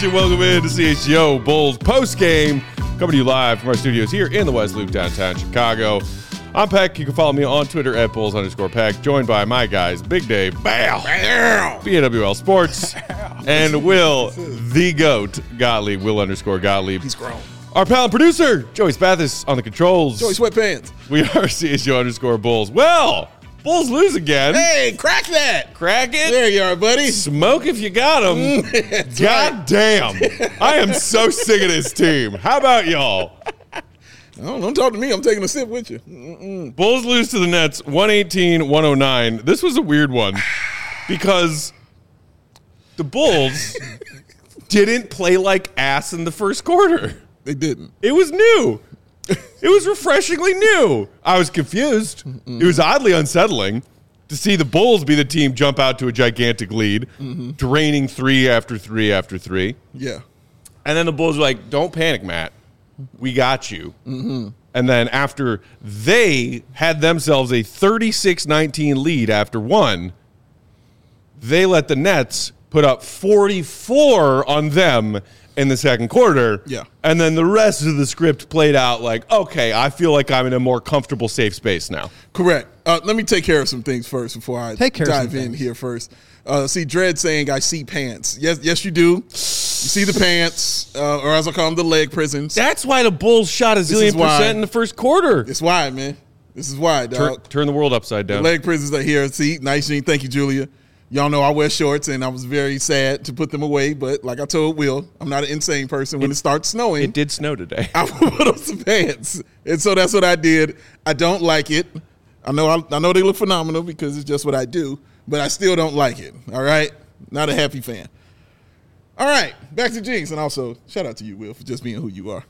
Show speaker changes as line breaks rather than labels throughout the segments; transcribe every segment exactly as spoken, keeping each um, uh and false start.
Nation, welcome in to C H G O Bulls post-game. Coming to you live from our studios here in the West Loop, downtown Chicago. I'm Peck. You can follow me on Twitter at Bulls underscore Peck. Joined by my guys, Big Dave, Bow, B A W L Sports, and Will, the GOAT, Gottlieb, Will underscore Gottlieb.
He's grown.
Our pal and producer, Joey Spathis, on the controls.
Joey Sweatpants.
We are C H G O underscore Bulls. Well, Bulls lose again.
Hey, crack that.
Crack it.
There you are, buddy.
Smoke if you got them. God
right.
damn. I am so sick of this team. How about y'all?
Oh, don't talk to me. I'm taking a sip with you. Mm-mm.
Bulls lose to the Nets one eighteen one oh nine. This was a weird one because the Bulls didn't play like ass in the first quarter.
They didn't.
It was new. It was refreshingly new. I was confused. Mm-mm. It was oddly unsettling to see the Bulls be the team jump out to a gigantic lead, mm-hmm. draining three after three after three.
Yeah.
And then the Bulls were like, don't panic, Matt. We got you. Mm-hmm. And then after they had themselves a thirty-six nineteen lead after one, they let the Nets put up forty-four on them in the second quarter.
Yeah. And
then the rest of the script played out like, okay, I feel like I'm in a more comfortable, safe space now.
Correct. Uh, let me take care of some things first before I
take care
dive
of some
in
things.
here first. Uh, see, Dredd saying, I see pants. Yes, yes, you do. You see the pants, uh, or as I call them, the leg prisons.
That's why the Bulls shot a zillion percent in the first quarter.
It's why, man. This is why, dog.
Turn, turn the world upside down.
The leg prisons are here. See, nice, Gene. Thank you, Julia. Y'all know I wear shorts, and I was very sad to put them away. But like I told Will, I'm not an insane person. When it, it starts snowing,
it did snow today.
I will put on some pants, and so that's what I did. I don't like it. I know. I, I know they look phenomenal because it's just what I do, but I still don't like it. All right, not a happy fan. All right, back to Jinx, and also shout out to you, Will, for just being who you are.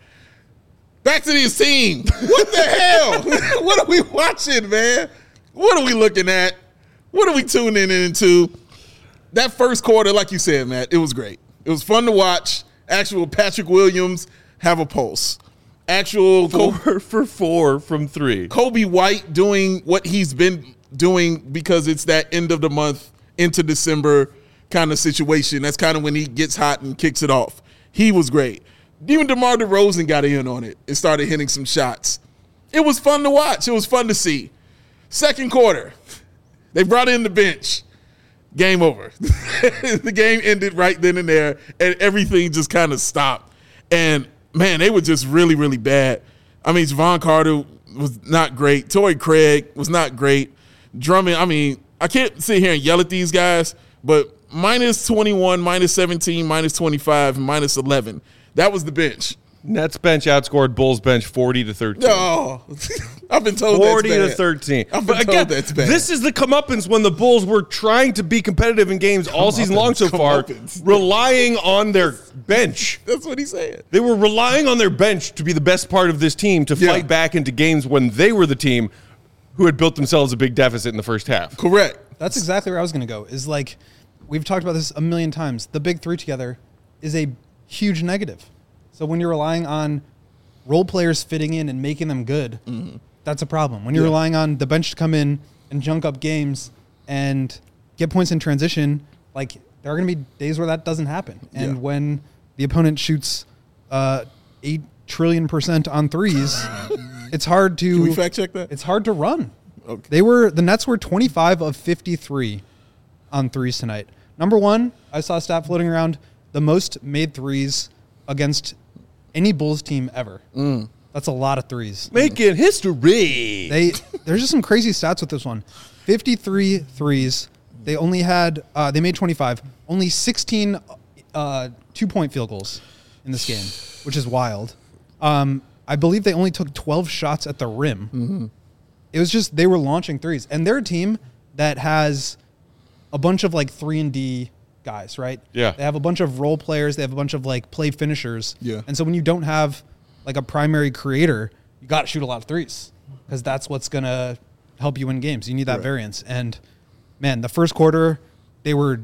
Back to this team. What the hell? What are we watching, man? What are we looking at? What are we tuning into? That first quarter, like you said, Matt, it was great. It was fun to watch. Actual Patrick Williams have a pulse. Actual
four
Kobe,
for four from three.
Kobe White doing what he's been doing because it's that end of the month into December kind of situation. That's kind of when he gets hot and kicks it off. He was great. Even DeMar DeRozan got in on it and started hitting some shots. It was fun to watch. It was fun to see. Second quarter. They brought in the bench. Game over. The game ended right then and there, and everything just kind of stopped. And, man, they were just really, really bad. I mean, Javon Carter was not great. Torrey Craig was not great. Drummond, I mean, I can't sit here and yell at these guys, but minus twenty-one, minus seventeen, minus twenty-five, and minus eleven. That was the bench.
Nets bench outscored Bulls bench forty to thirteen.
Oh, I've been told
forty
that's bad.
to thirteen.
I've been
but
told
again,
that's bad.
This is the comeuppance when the Bulls were trying to be competitive in games all season long so far, relying on their bench.
That's what he said.
They were relying on their bench to be the best part of this team to
Yeah.
fight back into games when they were the team who had built themselves a big deficit in the first half.
Correct.
That's exactly where I was going to go. Is like, we've talked about this a million times. The big three together is a huge negative. So when you're relying on role players fitting in and making them good, mm-hmm. that's a problem. When you're yeah. relying on the bench to come in and junk up games and get points in transition, like there are going to be days where that doesn't happen. And
yeah.
when the opponent shoots uh, eight trillion percent on threes, it's hard to.
Can we fact check that?
It's hard to run.
Okay.
They were the Nets were twenty-five of fifty-three on threes tonight. Number one, I saw a stat floating around: the most made threes against any Bulls team ever.
Mm.
That's a lot of threes.
Making history.
They there's just some crazy stats with this one. fifty-three threes. They only had uh, they made twenty-five. Only sixteen uh, two-point field goals in this game, which is wild. Um, I believe they only took twelve shots at the rim.
Mm-hmm.
It was just they were launching threes, and they're a team that has a bunch of like three and D guys, right?
Yeah.
They have a bunch of role players. They have a bunch of like play finishers.
Yeah.
And so when you don't have like a primary creator, you got to shoot a lot of threes because that's what's going to help you win games. You need that
right.
variance. And man, the first quarter, they were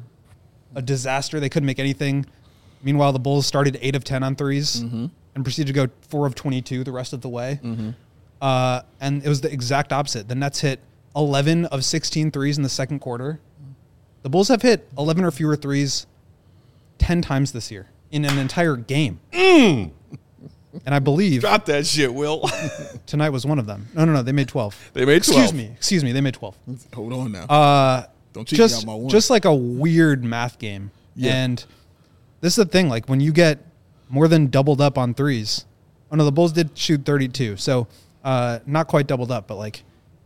a disaster. They couldn't make anything. Meanwhile, the Bulls started eight of ten on threes mm-hmm. and proceeded to go four of twenty-two the rest of the way. Mm-hmm. Uh, and it was the exact opposite. The Nets hit eleven of sixteen threes in the second quarter. The Bulls have hit eleven or fewer threes ten times this year. in an entire game.
Mm.
And I believe
Drop that shit, Will.
tonight was one of them. No, no, no. They made twelve.
They made twelve.
Excuse me. Excuse me. They made twelve.
Hold on now.
Uh,
Don't cheat
just,
me out my one.
just like a weird math game.
Yeah.
And this is the thing. Like when you get more than doubled up on threes. Oh, no, the Bulls did shoot thirty-two. So uh, not quite doubled up, but like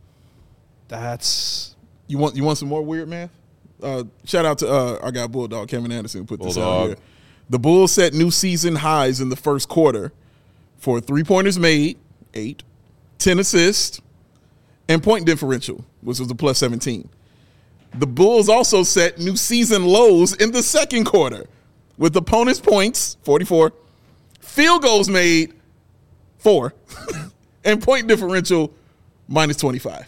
that's.
You want you want some more weird math? Uh, shout out to uh, our guy Bulldog, Kevin Anderson, who put this out
Bulldog.
here. The Bulls set new season highs in the first quarter for three-pointers made, eight, ten assists, and point differential, which was a plus seventeen. The Bulls also set new season lows in the second quarter with opponents' points, forty-four, field goals made, four, and point differential, minus twenty-five.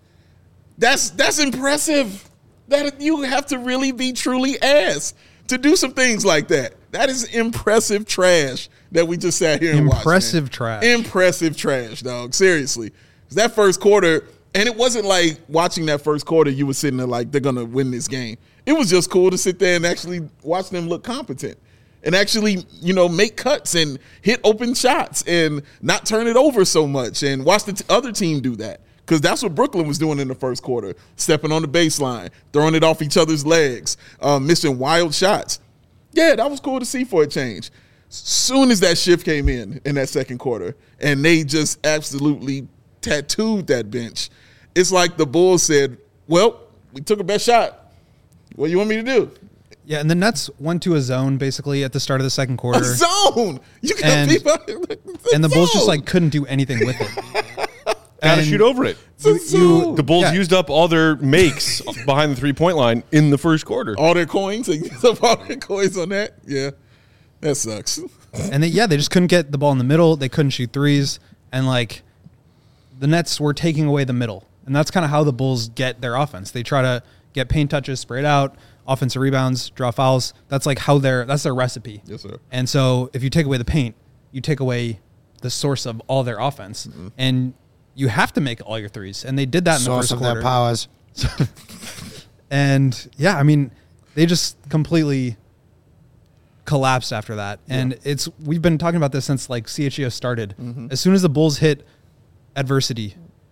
That's that's impressive. That you have to really be truly ass to do some things like that. That is impressive trash that we just sat here and watched.
Impressive
man.
trash.
Impressive trash, dog. Seriously. That first quarter, and it wasn't like watching that first quarter, you were sitting there like, they're going to win this game. It was just cool to sit there and actually watch them look competent and actually, you know, make cuts and hit open shots and not turn it over so much and watch the t- other team do that. Because that's what Brooklyn was doing in the first quarter, stepping on the baseline, throwing it off each other's legs, uh, missing wild shots. Yeah, that was cool to see for a change. Soon as that shift came in in that second quarter, and they just absolutely tattooed that bench, it's like the Bulls said, well, we took a best shot. What do you want me to do?
Yeah, and the Nets went to a zone basically at the start of the second quarter.
A zone! You got
And-
people.
And the Bulls just like couldn't do anything with it.
Gotta
And
shoot over it.
It's a zone.
The Bulls
Yeah.
used up all their makes behind the three-point line in the first quarter.
all their coins, they used up all their coins on that. Yeah, that sucks.
And they, yeah, they just couldn't get the ball in the middle. They couldn't shoot threes. And like the Nets were taking away the middle. And that's kind of how the Bulls get their offense. They try to get paint touches, spray it out, offensive rebounds, draw fouls. That's like how their that's their recipe.
Yes, sir.
And so if you take away the paint, you take away the source of all their offense.
Mm-hmm.
And you have to make all your threes. And they did that in the
Source
first
of
quarter.
their powers.
And yeah, I mean, they just completely collapsed after that. And
Yeah.
it's we've been talking about this since like C H G O started.
Mm-hmm.
As soon as the Bulls hit adversity,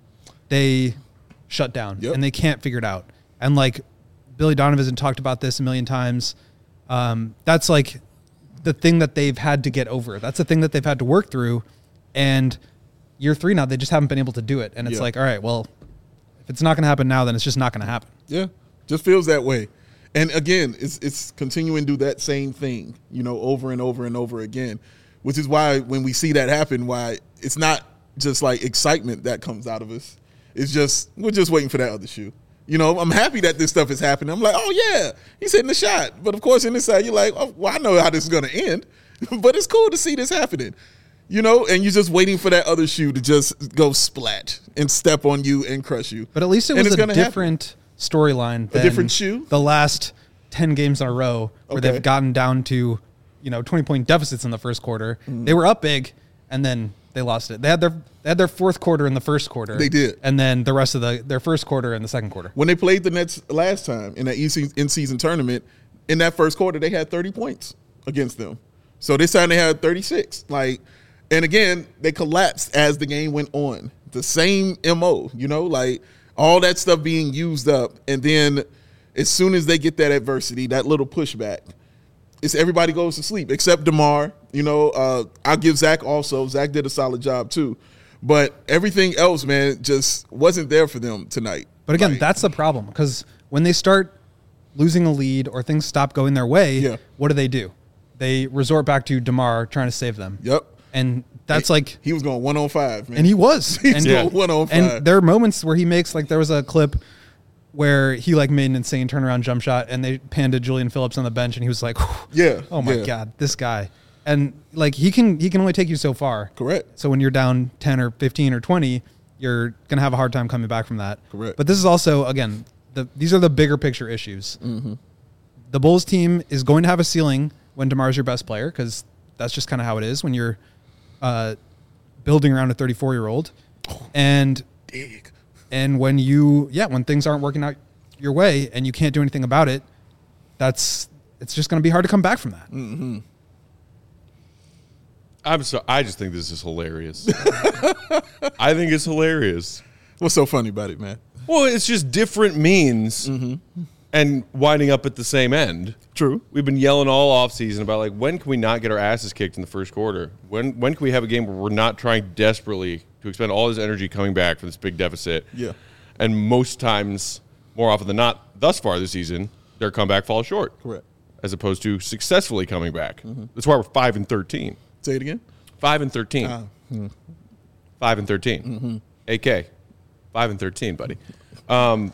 they shut down
Yep.
and they can't figure it out. And like Billy Donovan has talked about this a million times. Um, that's like the thing that they've had to get over. That's the thing that they've had to work through. And year three now, they just haven't been able to do it. And it's
Yeah.
like, all right, well, if it's not going to happen now, then it's just not going to happen.
Yeah, just feels that way. And again, it's it's continuing to do that same thing, you know, over and over and over again, which is why when we see that happen, why it's not just like excitement that comes out of us. It's just we're just waiting for that other shoe. You know, I'm happy that this stuff is happening. I'm like, oh yeah, he's hitting the shot. But of course, inside you're like, oh, well, I know how this is going to end, but it's cool to see this happening. You know, and you're just waiting for that other shoe to just go splat and step on you and crush you.
But at least it
And
was
it's
a
gonna happen.
different storyline. than
different shoe?
The last ten games in a row where
Okay.
they've gotten down to, you know, twenty point deficits in the first quarter.
Mm.
They were up big, and then they lost it. They had their they had their fourth quarter in the first quarter.
They did.
and then the rest of the their first quarter in the second quarter.
When they played the Nets last time in that in-season tournament, in that first quarter, they had thirty points against them. So this time they had thirty-six. Like, and again, they collapsed as the game went on. The same M O, you know, like all that stuff being used up. And then as soon as they get that adversity, that little pushback, it's everybody goes to sleep except DeMar. You know, uh, I'll give Zach also. Zach did a solid job too. But everything else, man, just wasn't there for them tonight.
But again,
Like,
that's the problem because when they start losing a lead or things stop going their way,
Yeah.
what do they do? They resort back to DeMar trying to save them.
Yep.
And that's like
He was going one on five, man.
And he was.
He's
and,
going one on five.
and there are moments where he makes, like, there was a clip where he, like, made an insane turnaround jump shot, and they panned to Julian Phillips on the bench, and he was like, "Whew,
Yeah,
oh, my
yeah.
God, this guy." And, like, he can he can only take you so far.
Correct.
So when you're down ten or fifteen or twenty, you're going to have a hard time coming back from that.
Correct.
But this is also, again, the these are the bigger picture issues.
Mm-hmm.
The Bulls team is going to have a ceiling when DeMar's your best player because that's just kind of how it is when you're uh, building around a thirty-four-year-old. And
Dig.
and when you, yeah, when things aren't working out your way and you can't do anything about it, that's it's just going to be hard to come back from that.
I'm so. I just think this is hilarious. I think it's hilarious.
What's so funny about it, man?
Well, it's just different means
Mm-hmm.
and winding up at the same end.
True.
We've been yelling all offseason about, like, when can we not get our asses kicked in the first quarter? When when can we have a game where we're not trying desperately to expend all this energy coming back from this big deficit?
Yeah.
And most times, more often than not, thus far this season, their comeback falls short.
Correct.
As opposed to successfully coming back.
Mm-hmm.
That's why we're five and thirteen.
Say it again.
Five and thirteen.
Ah, hmm.
Five and thirteen.
Mm-hmm.
A K. Five and thirteen, buddy. Um,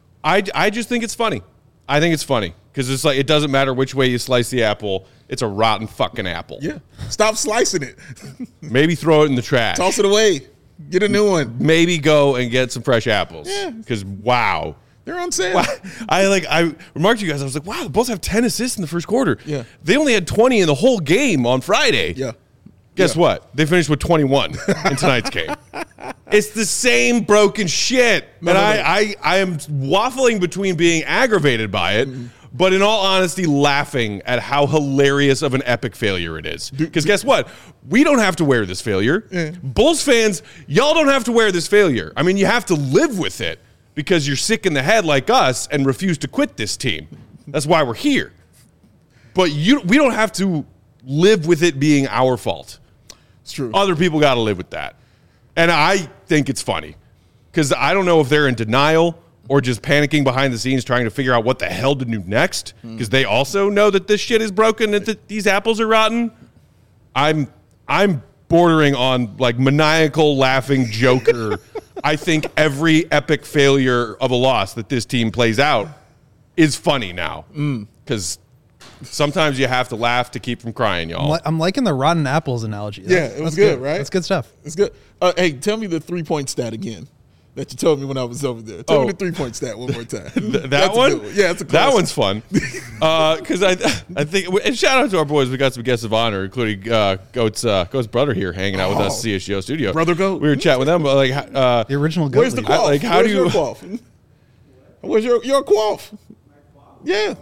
I I just think it's funny. I think it's funny because it's like it doesn't matter which way you slice the apple. It's a rotten fucking apple.
Yeah. Stop slicing it.
Maybe throw it in the trash.
Toss it away. Get a new one.
Maybe go and get some fresh apples.
Yeah.
Because wow.
They're on sale.
Wow. I like I remarked to you guys. I was like, wow, the Bulls have ten assists in the first quarter.
Yeah.
They only had twenty in the whole game on Friday.
Yeah.
Guess
Yeah.
what? They finished with twenty-one in tonight's game. It's the same broken shit.
No,
and
no,
I,
no.
I, I am waffling between being aggravated by it,
Mm-hmm.
but in all honesty, laughing at how hilarious of an epic failure it is. Because guess what? We don't have to wear this failure.
Yeah.
Bulls fans, y'all don't have to wear this failure. I mean, you have to live with it because you're sick in the head like us and refuse to quit this team. That's why we're here. But you, we don't have to live with it being our fault.
It's true.
Other people got to live with that. And I think it's funny because I don't know if they're in denial or just panicking behind the scenes trying to figure out what the hell to do next because they also know that this shit is broken and that these apples are rotten. I'm I'm bordering on like maniacal laughing Joker. I think every epic failure of a loss that this team plays out is funny now because sometimes you have to laugh to keep from crying, y'all.
I'm, li- I'm liking the rotten apples analogy.
Yeah,
That's-
it was
that's
good, right?
That's good stuff.
It's good. Uh, hey, tell me the three-point stat again that you told me when I was over there. Tell
Oh.
me the three-point stat one more time.
Th- that
That's a
one?
good Yeah, that's a
that
classic.
one's fun. Because I, I think, and shout out to our boys. We got some guests of honor, including uh, Goat's uh, Goat's brother here, hanging out with us,
Oh.
C S G O studio.
Brother Goat.
We were chatting with them, but like, uh,
The original goat
Where's the
leader.
quaff?
like, how
Where's
do
your
you-
quaff? Where's your your quaff? Yeah.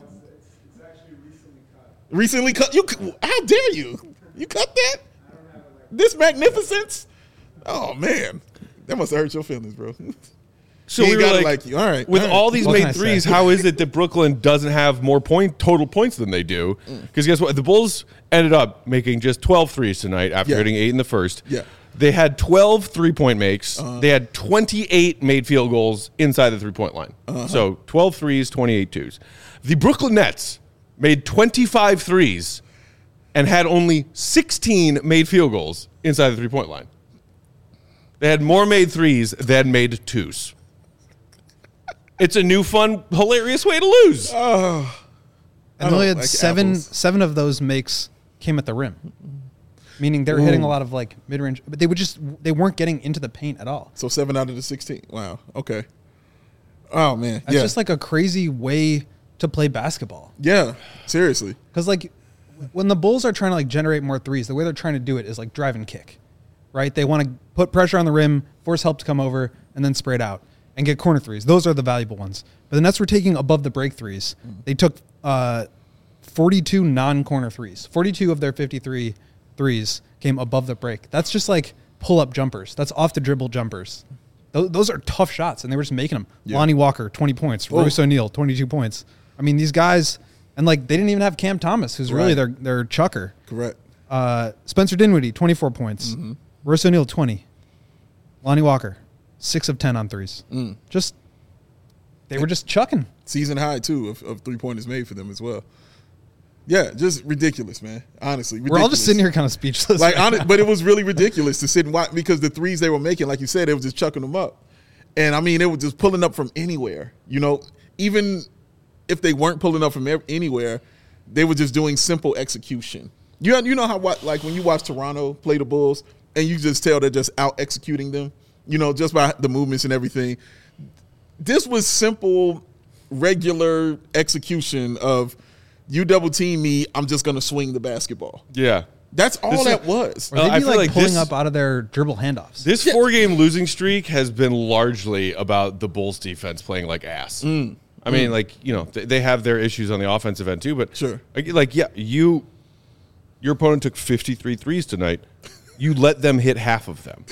Recently cut. You? How dare you? You cut that? This magnificence? Oh man, that must have hurt your feelings, bro.
so
He
we
ain't
were
gotta
like,
like you. All right.
with
all right.
all these
What can I
made
say?
threes, how is it that Brooklyn doesn't have more point total points than they do? Because guess what? The Bulls ended up making just twelve threes tonight after
Yeah.
hitting eight in the first.
Yeah.
They had twelve three-point makes. They had twenty-eight made field goals inside the three-point line. So twelve threes, twenty-eight twos. The Brooklyn Nets made twenty-five threes and had only sixteen made field goals inside the three-point line. They had more made threes than made twos. It's a new, fun, hilarious way to lose.
And they only
don't
had
like
seven
apples.
seven of those makes came at the rim. Meaning they're hitting a lot of like mid range, but they would just they weren't getting into the paint at all.
So seven out of the sixteen. Wow. Okay. Oh man.
That's
yeah.
just like a crazy way to play basketball.
yeah. Seriously.
Because like when the Bulls are trying to like generate more threes, the way they're trying to do it is like drive and kick, right? They want to put pressure on the rim, force help to come over, and then spray it out and get corner threes. Those are the valuable ones. But the Nets were taking above the break threes. They took uh, forty-two non-corner threes. forty-two of their fifty-three threes came above the break. That's just like pull-up jumpers. That's off the dribble jumpers. Those, those are tough shots, and they were just making them.
Yeah.
Lonnie Walker, twenty points. Bruce O'Neal, twenty-two points. I mean, these guys, and like they didn't even have Cam Thomas, who's really
Right.
their their chucker.
Correct.
Uh, Spencer Dinwiddie, twenty-four points.
Mm-hmm.
Bruce O'Neal, twenty. Lonnie Walker, six of ten on threes.
Mm.
Just they were just chucking.
Season high too of, of three pointers made for them as well. Yeah, just ridiculous, man. Honestly, ridiculous.
We're all just sitting here kind of speechless.
Like,
right
honest,
now.
but it was really ridiculous to sit and watch because the threes they were making, like you said, they were just chucking them up, and I mean, they were just pulling up from anywhere. You know, even if they weren't pulling up from ev- anywhere, they were just doing simple execution. You you know how what like when you watch Toronto play the Bulls, and you just tell they're just out executing them. You know, just by the movements and everything. This was simple, regular execution of you double team me, I'm just gonna swing the basketball.
Yeah.
That's all
This is-
that was.
Or they'd
Uh, I
be
feel
like,
like
pulling
this-
up out of their dribble handoffs.
This
Yeah.
four-game losing streak has been largely about the Bulls' defense playing like ass.
Mm.
I mean, like, you know, th- they have their issues on the offensive end too, but
Sure.
like, like, yeah, you Your opponent took fifty-three threes tonight. You let them hit half of them.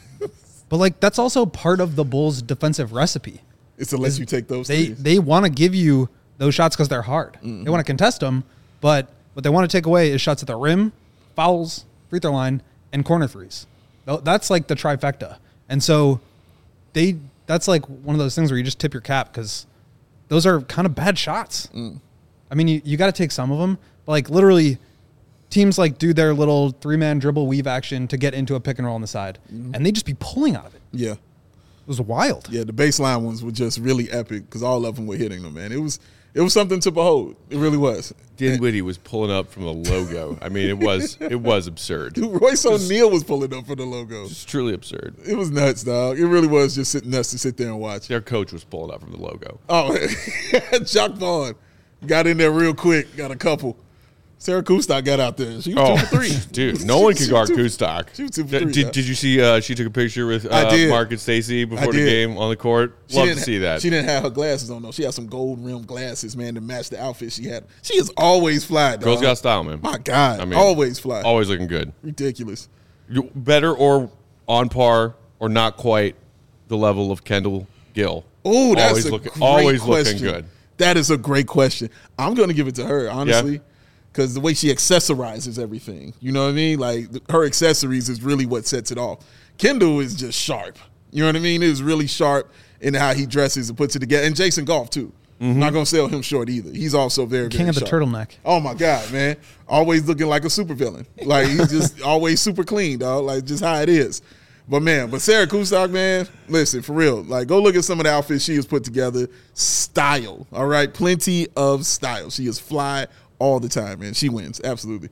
But, like, that's also part of the Bulls' defensive recipe.
It's to let you take those
They
threes.
they want to give you those shots because they're hard.
Mm-hmm.
They want to contest them, but what they want to take away is shots at the rim, fouls, free throw line, and corner threes. Tho- That's like the trifecta. And so they that's like one of those things where you just tip your cap because those are kind of bad shots.
Mm.
I mean, you, you got to take some of them, but like literally teams like do their little three-man dribble weave action to get into a pick and roll on the side,
Mm-hmm.
and they just be pulling out of it.
Yeah.
It was wild.
Yeah, the baseline ones were just really epic because all of them were hitting them, man. It was it was something to behold. It really was.
Dinwiddie was pulling up from the logo. I mean, it was it was absurd.
Dude, Royce O'Neal was pulling up for the logo.
It's truly absurd.
It was nuts, dog. It really was just sitting nuts to sit there and watch.
Their coach was pulling up from the logo.
Oh, Jock Vaughn got in there real quick, got a couple. Sarah Kustok got out there. She was
Oh,
two for three.
dude, no one
She
can
was
guard
two-
Kustok.
She was two for
Did,
three,
did,
yeah.
did you see uh, she took a picture with
I
uh,
did.
Mark and Stacy before
I
the
did.
game on the court?
She
Love to
didn't
see
ha-
that.
She didn't have her glasses on, though. She had some gold rimmed glasses, man, to match the outfit she had. She is always fly, dog.
Girls got style, man.
My God.
I mean,
always fly.
Always looking good.
Ridiculous.
You- Better or on par or not quite the level of Kendall Gill.
Oh, that's
always
a
looking,
great
always
question.
looking good.
That is a great question. I'm going to give it to her, honestly, because the way she accessorizes everything, you know what I mean? Like, th- her accessories is really what sets it off. Kendall is just sharp. You know what I mean? It is really sharp in how he dresses and puts it together. And Jason Goff, too. I'm not going to sell him short either. He's also very,
King
very
of the
sharp.
turtleneck.
Oh, my God, man. Always looking like a supervillain. Like, he's just always super clean, dog. Like, just how it is. But, man, but Sarah Kustok, man, listen, for real. Like, go look at some of the outfits she has put together. Style, all right? Plenty of style. She is fly all the time, man. She wins, absolutely.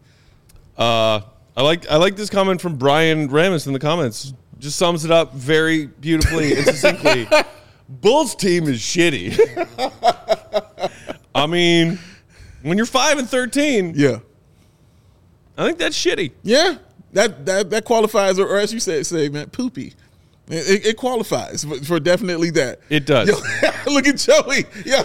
Uh, I like I like this comment from Brian Ramis in the comments. Just sums it up very beautifully and succinctly. Bulls team is shitty. I mean, when you're five and thirteen,
Yeah.
I think that's shitty.
Yeah, that that, that qualifies, or, or as you say, say man, poopy. It, it qualifies for, for definitely that.
It does.
Yo, look at Joey. Yeah.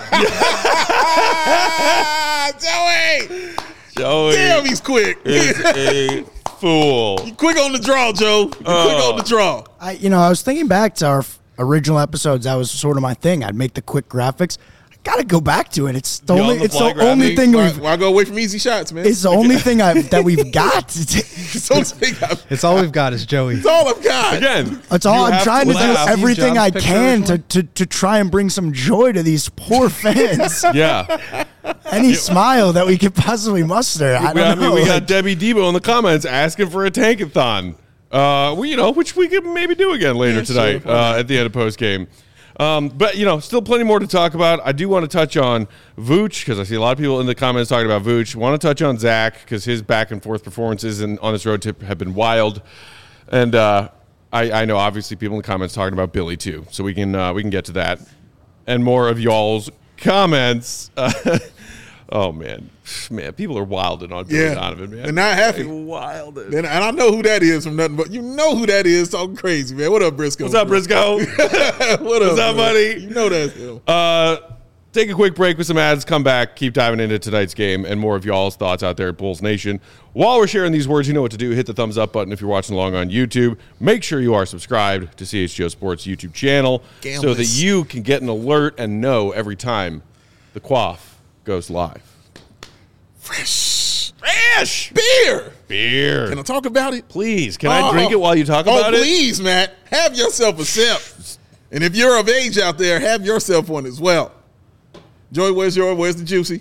Joey.
Joey
Damn, he's quick.
is a fool.
Quick on the draw, Joe. Quick
Oh.
on the draw.
I, you know, I was thinking back to our f- original episodes. That was sort of my thing. I'd make the quick graphics. I gotta go back to it. It's the
The
only.
on-the-fly
It's the only
graphics.
thing
Why,
we've.
why go away from easy shots, man?
It's the only thing I've, that we've got.
It's all I've-
It's all we've got is Joey.
it's all I've got.
Again,
It's all
you
I'm
have
trying to, do
laugh.
everything
Jobs
I
picture
can to,
originally?
to to try and bring some joy to these poor fans.
Yeah.
Any smile that we could possibly muster. I
We-
don't
I mean,
know.
we got
like-
Debbie Debo in the comments asking for a tankathon. Uh, we, you know, which we could maybe do again later
Yeah, sure,
tonight
why not?
uh, at the end of post game. Um, but you know, still plenty more to talk about. I do want to touch on Vooch because I see a lot of people in the comments talking about Vooch. Want to touch on Zach because his back and forth performances in, on this road trip have been wild, and uh, I, I know obviously people in the comments talking about Billy too. So we can uh, we can get to that and more of y'all's comments. Uh, oh man, man, people are wilding on Billy
Yeah.
Donovan, man.
They're not happy.
They're wilding.
And, and I know who that is from nothing but you know who that is talking crazy, man. What up, Briscoe?
What's up, Briscoe?
what up,
What's up,
man?
buddy?
You know that's him.
Uh, take a quick break with some ads. Come back. Keep diving into tonight's game and more of y'all's thoughts out there at Bulls Nation. While we're sharing these words, you know what to do. Hit the thumbs up button if you're watching along on YouTube. Make sure you are subscribed to C H G O Sports YouTube channel so that
Gamblers.
you can get an alert and know every time the quaff goes live.
Fresh
Fresh
beer.
beer.
Can I talk about it?
Please, can I
Oh.
drink it while you talk
Oh,
about it?
please, Matt. Have yourself a sip. And if you're of age out there, have yourself one as well. Joey, where's your, where's the juicy?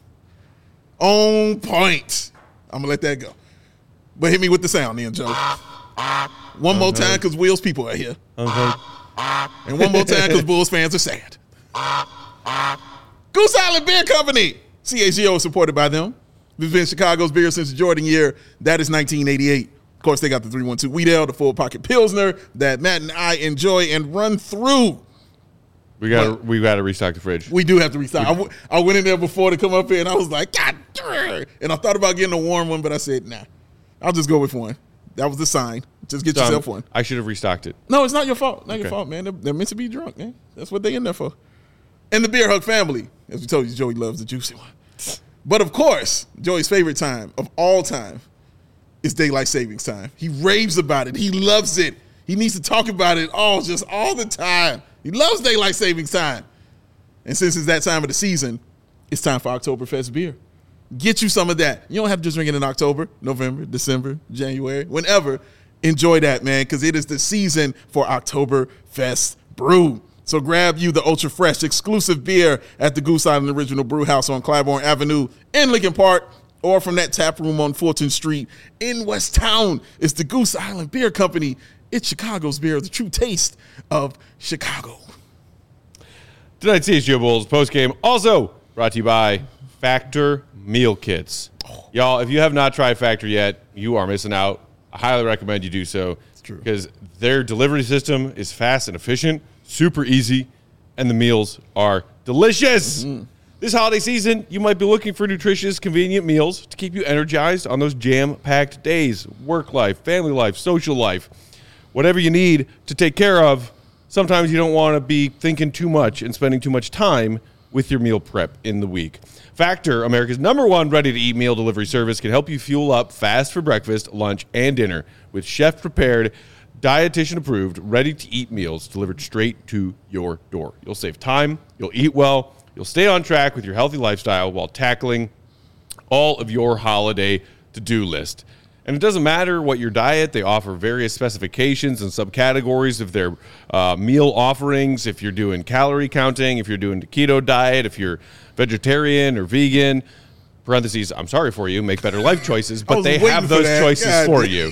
On point. I'm going to let that go. But hit me with the sound then, Joe. One more time because Will's people are here.
Okay.
And one more time because Bulls fans are sad. Goose Island Beer Company. C H G O is supported by them. This has been Chicago's beer since the Jordan year. That is nineteen eighty-eight. Of course, they got the three one two Wheat Ale, the full pocket Pilsner that Matt and I enjoy and run through.
We got we got to restock the fridge.
We do have to restock. I, w- I went in there before to come up here and I was like, God, darn. And I thought about getting a warm one, but I said, nah, I'll just go with one. That was the sign. Just get
Done.
yourself one.
I should have restocked it.
No, it's not your fault. Not
Okay.
your fault, man. They're, they're meant to be drunk, man. That's what they're in there for. And the Beer Hug family. As we told you, Joey loves the juicy one. But of course, Joey's favorite time of all time is daylight savings time. He raves about it. He loves it. He needs to talk about it all, just all the time. He loves daylight savings time. And since it's that time of the season, it's time for Oktoberfest beer. Get you some of that. You don't have to just drink it in October, November, December, January, whenever. Enjoy that, man, because it is the season for Oktoberfest brew. So grab you the ultra fresh exclusive beer at the Goose Island Original Brew House on Claiborne Avenue in Lincoln Park, or from that tap room on Fulton Street in West Town. It's the Goose Island Beer Company. It's Chicago's beer, the true taste of Chicago.
Tonight's C H G O Bulls postgame also brought to you by Factor Meal Kits. Oh. Y'all, if you have not tried Factor yet, you are missing out. I highly recommend you do so.
It's true.
Because their delivery system is fast and efficient, super easy, and the meals are delicious. Mm-hmm. This holiday season, you might be looking for nutritious, convenient meals to keep you energized on those jam-packed days. Work life, family life, social life, whatever you need to take care of. Sometimes you don't want to be thinking too much and spending too much time with your meal prep in the week. Factor, America's number one ready-to-eat meal delivery service, can help you fuel up fast for breakfast, lunch, and dinner with chef-prepared, dietitian-approved, ready-to-eat meals delivered straight to your door. You'll save time, you'll eat well, you'll stay on track with your healthy lifestyle while tackling all of your holiday to-do list. And it doesn't matter what your diet, they offer various specifications and subcategories of their uh, meal offerings. If you're doing calorie counting, if you're doing the keto diet, if you're vegetarian or vegan, parentheses, I'm sorry for you, make better life choices, but they have those that. choices God. for you.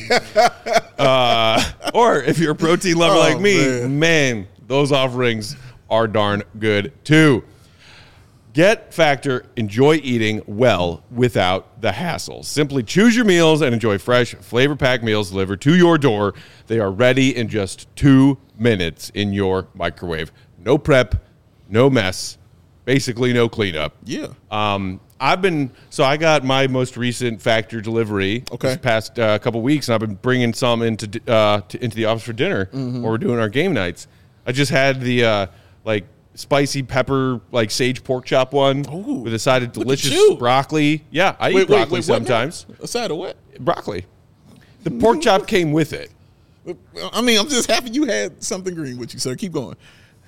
uh, or if you're a protein lover oh, like me, man. man, those offerings are darn good too. Get Factor, enjoy eating well without the hassle. Simply choose your meals and enjoy fresh, flavor-packed meals delivered to your door. They are ready in just two minutes in your microwave. No prep, no mess, basically no cleanup.
Yeah.
Um, I've been, so I got my most recent Factor delivery
okay.
this past uh, couple weeks, and I've been bringing some into uh, to, into the office for dinner mm-hmm. while we're doing our game nights. I just had the, uh, like, spicy pepper, like sage pork chop one Ooh, with a side of delicious broccoli. Yeah, I wait, eat broccoli wait, wait, sometimes.
A side of what?
Broccoli. The pork chop came with it.
I mean, I'm just happy you had something green with you, sir. Keep going.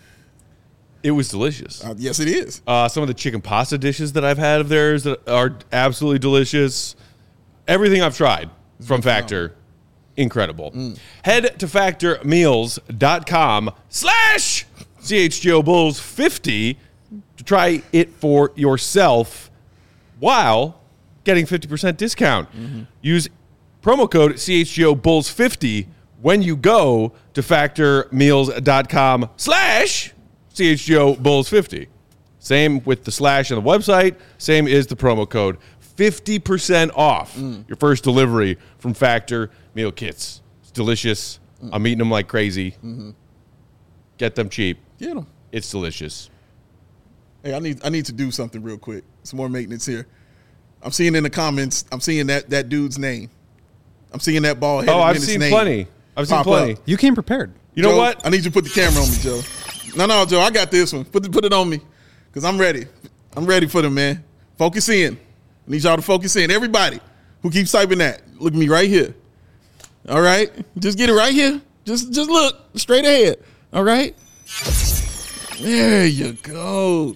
It was delicious.
Uh, yes, it is.
Uh, some of the chicken pasta dishes that I've had of theirs that are absolutely delicious. Everything I've tried from Factor, incredible. Mm. Head to factor meals dot com slash C H G O Bulls fifty to try it for yourself while getting fifty percent discount. Mm-hmm. Use promo code C H G O Bulls fifty when you go to factor meals dot com slash C H G O Bulls fifty. Same with the slash on the website. Same is the promo code. fifty percent off mm. your first delivery from Factor Meal Kits. It's delicious. Mm. I'm eating them like crazy. Mm-hmm. Get them cheap.
Get them.
It's delicious.
Hey, I need I need to do something real quick. Some more maintenance here. I'm seeing in the comments, I'm seeing that, that dude's name. I'm seeing that ball head.
Oh, I've seen name plenty. I've seen plenty.
Up.
You came prepared.
You
Joe,
know what?
I need you to put the camera on me, Joe. No, no, Joe, I got this one. Put the, put it on me because I'm ready. I'm ready for them, man. Focus in. I need y'all to focus in. Everybody who keeps typing that, look at me right here. All right? Just get it right here. Just, just look straight ahead. All right? There you go.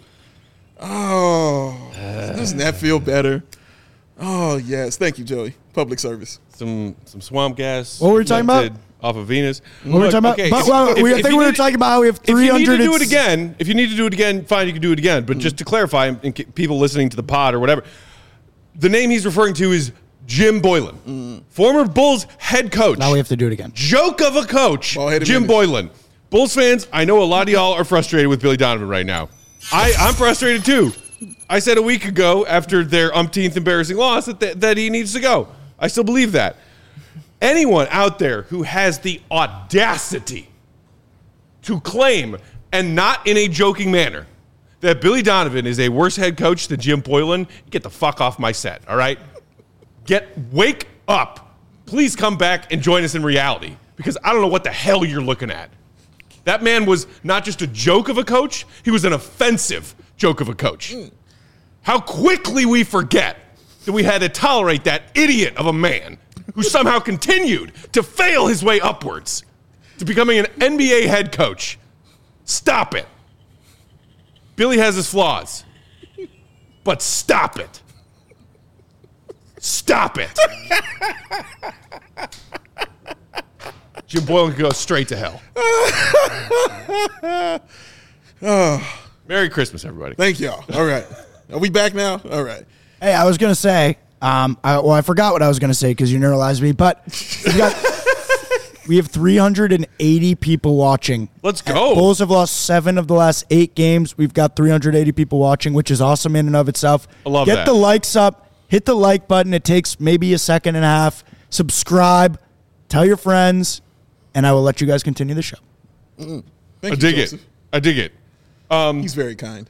Oh, doesn't that feel better? Oh, yes. Thank you, Joey. Public service.
Some some swamp gas.
What were we talking about?
Off of Venus.
What were we talking about?
Okay,
but,
if,
well,
if,
we, I
if
think we were
need,
talking about how we have three hundred.
If you need to do it again, if you need to do it again, fine, you can do it again. But mm. just to clarify, in people listening to the pod or whatever, the name he's referring to is Jim Boylan, mm. former Bulls head coach.
Now we have to do it again.
Joke of a coach,
Ball-headed
Jim
minutes.
Boylan. Bulls fans, I know a lot of y'all are frustrated with Billy Donovan right now. I, I'm frustrated too. I said a week ago after their umpteenth embarrassing loss that, th- that he needs to go. I still believe that. Anyone out there who has the audacity to claim, and not in a joking manner, that Billy Donovan is a worse head coach than Jim Boylan, get the fuck off my set, all right? Get, wake up. Please come back and join us in reality, because I don't know what the hell you're looking at. That man was not just a joke of a coach, he was an offensive joke of a coach. Mm. How quickly we forget that we had to tolerate that idiot of a man who somehow continued to fail his way upwards to becoming an N B A head coach. Stop it. Billy has his flaws, but stop it. Stop it. Jim Boylan can go straight to hell.
Oh,
Merry Christmas, everybody.
thank y'all. All right. Are we back now? All right.
Hey, I was gonna say, um, I, well, I forgot what I was gonna say because you neuralized me. But we got, we have three hundred eighty people watching.
Let's go.
Bulls have lost seven of the last eight games. We've got three hundred eighty people watching, which is awesome in and of itself.
I love
Get
that.
the likes up. Hit the like button. It takes maybe a second and a half. Subscribe. Tell your friends, and I will let you guys continue the show.
Thank
I
you,
dig
Joseph.
it. I dig it.
He's very kind.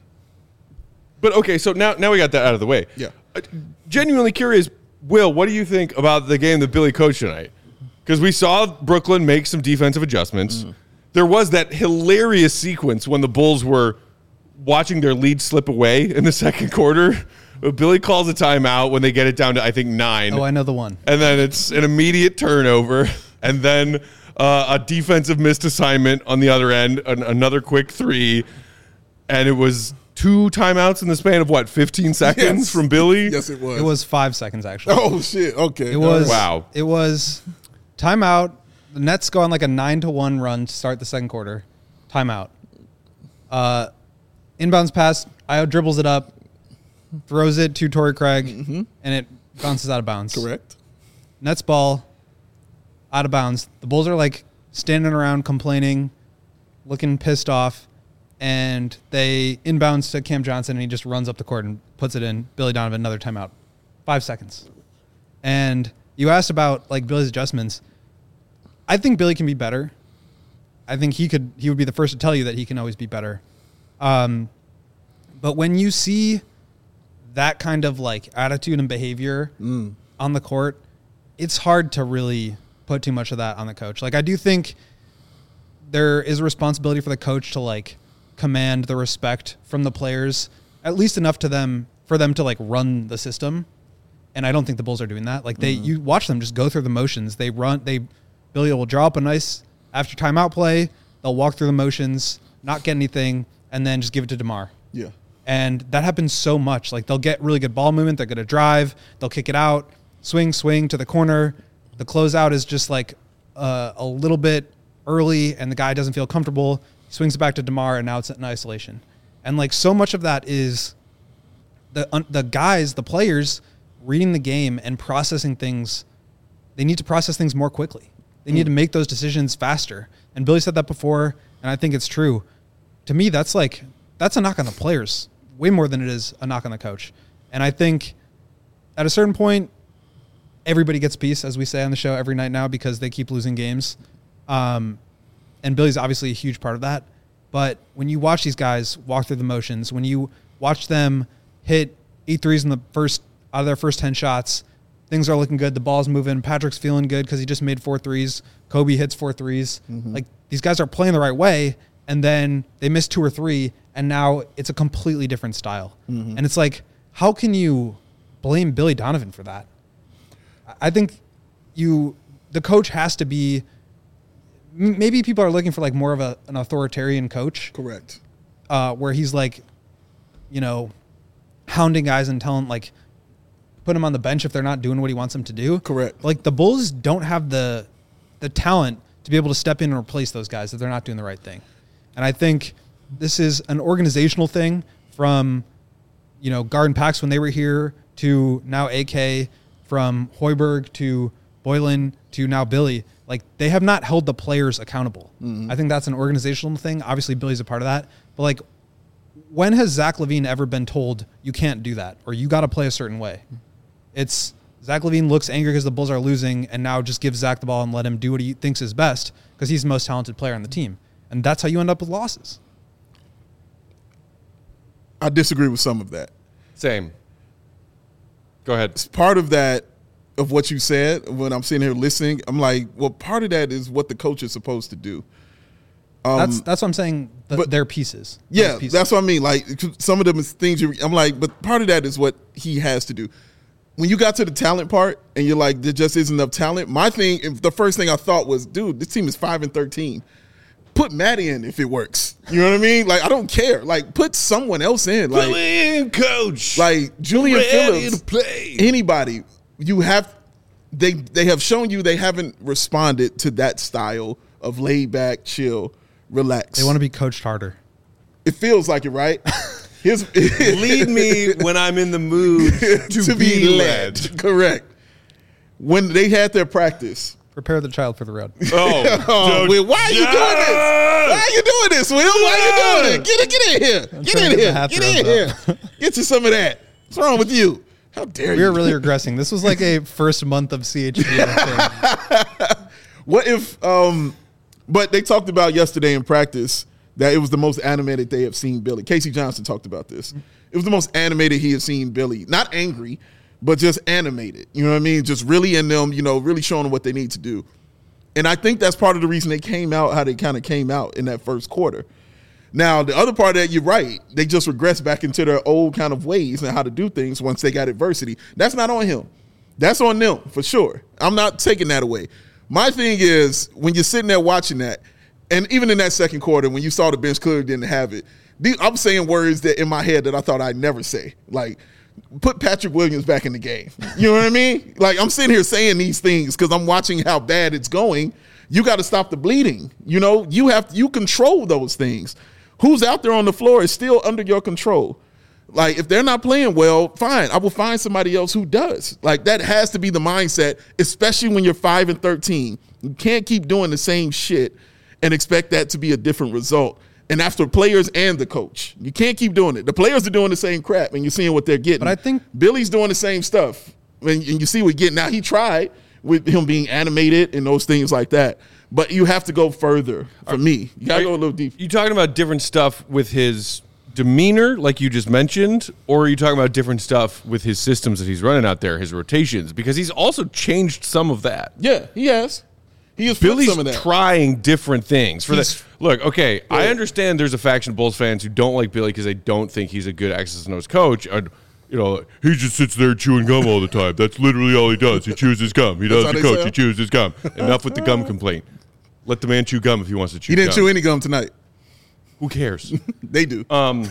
But okay, so now now we got that out of the way.
Yeah.
Uh, genuinely curious, Will, what do you think about the game that Billy coached tonight? Because we saw Brooklyn make some defensive adjustments. Mm. There was that hilarious sequence when the Bulls were watching their lead slip away in the second quarter. Billy calls a timeout when they get it down to, I think, nine.
Oh, I know the one.
And then it's an immediate turnover. And then uh, a defensive missed assignment on the other end, an, another quick three. And it was two timeouts in the span of, what, fifteen seconds
Yes.
from Billy?
Yes, it was.
It was five seconds, actually.
Oh, shit. Okay.
It was
Wow.
It was timeout. The Nets go on like a nine to one run to start the second quarter. Timeout. Uh, inbounds pass. Io dribbles it up, throws it to Torrey Craig,
Mm-hmm.
and it bounces out of bounds.
Correct.
Nets ball out of bounds. The Bulls are like standing around complaining, looking pissed off, and they inbounds to Cam Johnson, and he just runs up the court and puts it in. Billy Donovan, another timeout. Five seconds. And you asked about like Billy's adjustments. I think Billy can be better. I think he could. He would be the first to tell you that he can always be better. Um, but when you see that kind of like attitude and behavior
Mm.
on the court, it's hard to really put too much of that on the coach. Like I do think there is a responsibility for the coach to like command the respect from the players, at least enough to them for them to like run the system. And I don't think the Bulls are doing that. Like they, mm. you watch them just go through the motions. They run, they, Billy will draw up a nice after timeout play. They'll walk through the motions, not get anything, and then just give it to DeMar.
Yeah.
And that happens so much. Like they'll get really good ball movement. They're going to drive. They'll kick it out, swing, swing to the corner. The closeout is just like uh, a little bit early, and the guy doesn't feel comfortable. He swings it back to DeMar, and now it's in isolation. And like so much of that is the un- the guys, the players, reading the game and processing things. They need to process things more quickly. They mm. need to make those decisions faster. And Billy said that before, and I think it's true. To me, that's like that's a knock on the players way more than it is a knock on the coach. And I think at a certain point, everybody gets a piece, as we say on the show every night now, because they keep losing games. Um, and Billy's obviously a huge part of that. But when you watch these guys walk through the motions, when you watch them hit eight threes in the first out of their first ten shots, things are looking good. The ball's moving. Patrick's feeling good because he just made four threes. Kobe hits four threes. Mm-hmm. Like these guys are playing the right way, and then they miss two or three, and now it's a completely different style. Mm-hmm. And it's like, how can you blame Billy Donovan for that? I think you, the coach has to be. Maybe people are looking for like more of a, an authoritarian coach.
Correct.
Uh, where he's like, you know, hounding guys and telling like, put them on the bench if they're not doing what he wants them to do.
Correct.
Like the Bulls don't have the the talent to be able to step in and replace those guys if they're not doing the right thing. And I think this is an organizational thing from, you know, Garden Pax when they were here to now A K, from Hoiberg to Boylan to now Billy. Like they have not held the players accountable. Mm-hmm. I think that's an organizational thing. Obviously Billy's a part of that, but like when has Zach LaVine ever been told you can't do that or you got to play a certain way? It's Zach LaVine looks angry because the Bulls are losing and now just gives Zach the ball and let him do what he thinks is best because he's the most talented player on the team. And that's how you end up with losses.
I disagree with some of that.
Same. Go ahead.
It's part of that, of what you said, when I'm sitting here listening, I'm like, well, part of that is what the coach is supposed to do. Um,
that's that's what I'm saying. The,
but,
their pieces.
Yeah,
pieces.
That's what I mean. Like some of them is things you, I'm like, but part of that is what he has to do. when you got to the talent part and you're like, there just isn't enough talent. My thing, the first thing I thought was, dude, this team is five and thirteen. Put Matt in if it works. You know what I mean? Like, I don't care. Like, put someone else in. Like,
Put me in, coach.
Like Julian
Ready
Phillips,
to play.
anybody. You have they they have shown you they haven't responded to that style of laid back, chill, relax.
They want to be coached harder.
It feels like it, right? Here's,
Lead me when I'm in the mood to,
to
be, led.
Correct. When they had their practice.
Prepare the child for the road.
Oh,
Oh,
so-
Will, why are you doing this?
Yeah.
Why are you doing this, Will? Why are you doing it? Get it, get in here.
I'm
Get
trying
in
to get the
here.
half
Get in
throws
here. Get you some of that. What's wrong with you? How dare
We
you?
were really regressing. This was like a first month of C H D. I think.
What if, um, but they talked about yesterday in practice that it was the most animated they have seen Billy. Casey Johnson talked about this. It was the most animated he has seen Billy. Not angry, but just animated. You know what I mean? Just really in them, you know, really showing them what they need to do. And I think that's part of the reason they came out how they kind of came out in that first quarter. Now, the other part of that, you're right. They just regressed back into their old kind of ways and how to do things once they got adversity. That's not on him. That's on them, for sure. I'm not taking that away. My thing is, when you're sitting there watching that, and even in that second quarter, when you saw the bench clearly didn't have it, the, I'm saying words that in my head that I thought I'd never say. Like, put Patrick Williams back in the game. You know what I mean? Like, I'm sitting here saying these things because I'm watching how bad it's going. You got to stop the bleeding. You know, you have you control those things. Who's out there on the floor is still under your control. Like, if they're not playing well, fine. I will find somebody else who does. Like, that has to be the mindset, especially when you're five and thirteen. You can't keep doing the same shit and expect that to be a different result. And after players and the coach, you can't keep doing it. The players are doing the same crap, and you're seeing what they're getting.
But I think
Billy's doing the same stuff, and, and you see what he's getting. Now, he tried with him being animated and those things like that, but you have to go further. For me, you got to go a little deeper.
You talking about different stuff with his demeanor, like you just mentioned, or are you talking about different stuff with his systems that he's running out there, his rotations? Because he's also changed some of that.
Yeah, he has. He has flipped
Billy's
some of that.
trying different things. For
He's-
the, look, okay, I
Yeah.
understand there's a faction of Bulls fans who don't like Billy because they don't think he's a good X's and O's coach. And, you know, he just sits there chewing gum all the time. That's literally all he does. He chews his gum. He
That's
doesn't
how they
coach.
say
He
it?
chews his gum. Enough with the gum complaint. Let the man chew gum if he wants to chew
He didn't
gum.
chew any gum tonight.
Who cares?
They do.
Um,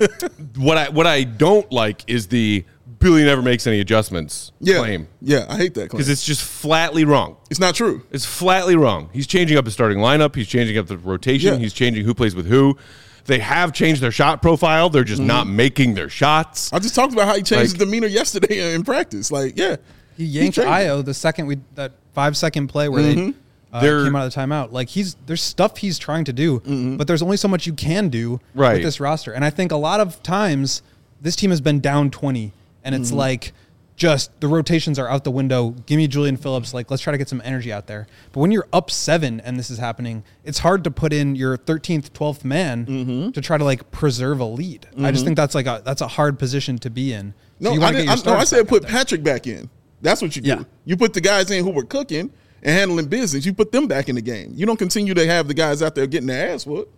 what I what I don't like is the Billy never makes any adjustments
yeah,
claim.
yeah, I hate that claim.
Because it's just flatly wrong.
It's not true.
It's flatly wrong. He's changing up the starting lineup. He's changing up the rotation.
Yeah.
He's changing who plays with who. They have changed their shot profile. They're just not making their shots.
I just talked about how he changed
Like-
his demeanor yesterday in practice. Like, yeah,
He yanked
changed it.
Io the second we that five second play where they uh,
They're-
came out of the timeout. Like he's there's stuff he's trying to do, but there's only so much you can do
Right.
with this roster. And I think a lot of times this team has been down twenty, and it's like just the rotations are out the window. Give me Julian Phillips. Like let's try to get some energy out there. But when you're up seven and this is happening, it's hard to put in your thirteenth, twelfth man to try to like preserve a lead. I just think that's like a that's a hard position to be in. So
No,
you
I,
wanna
didn't,
get your
I, no, I
starters
said
back out
put
there.
Patrick back in. That's what you do.
Yeah.
You put the guys in who were cooking and handling business. You put them back in the game. You don't continue to have the guys out there getting their ass whooped.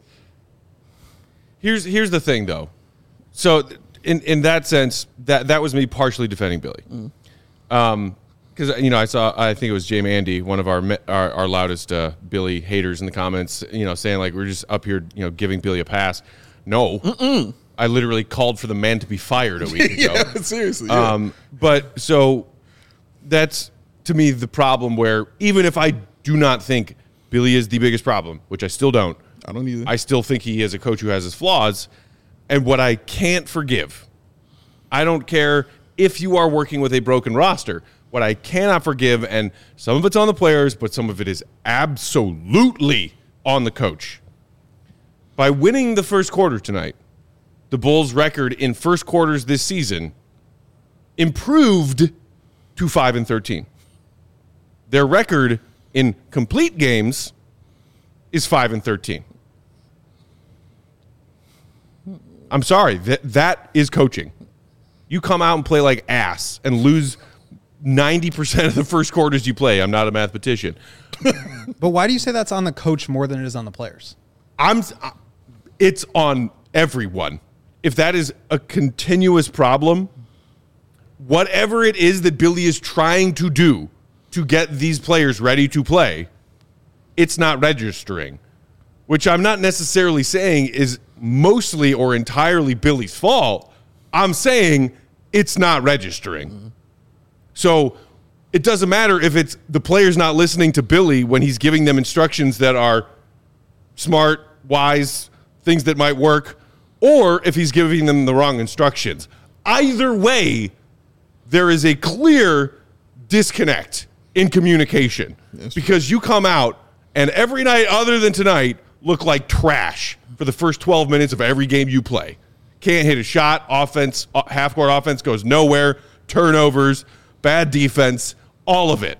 Here's here's the thing, though. So in in that sense, that that was me partially defending Billy. Um, because you know I saw I think it was Jamie Andy, one of our me- our, our loudest uh, Billy haters in the comments, you know, saying like we're just up here, you know, giving Billy a pass. No, Mm-mm. I literally called for the man to be fired a week ago.
yeah, seriously. Yeah.
Um, but so that's to me the problem where even if I do not think Billy is the biggest problem, which I still don't,
I don't either.
I still think he is a coach who has his flaws. And what I can't forgive, I don't care if you are working with a broken roster. What I cannot forgive, and some of it's on the players, but some of it is absolutely on the coach. By winning the first quarter tonight, the Bulls' record in first quarters this season improved to five and thirteen. Their record in complete games is five and thirteen. I'm sorry, that that is coaching. You come out and play like ass and lose ninety percent of the first quarters you play. I'm not a mathematician.
But why do you say that's on the coach more than it is on the players?
I'm it's on everyone. If that is a continuous problem, whatever it is that Billy is trying to do to get these players ready to play, it's not registering, which I'm not necessarily saying is mostly or entirely Billy's fault. I'm saying it's not registering. Mm-hmm. So it doesn't matter if it's the player's not listening to Billy when he's giving them instructions that are smart, wise, things that might work, or if he's giving them the wrong instructions. Either way, there is a clear disconnect in communication. That's because true. You come out and every night other than tonight look like trash for the first twelve minutes of every game you play. Can't hit a shot, offense, half-court offense goes nowhere, turnovers, bad defense, all of it.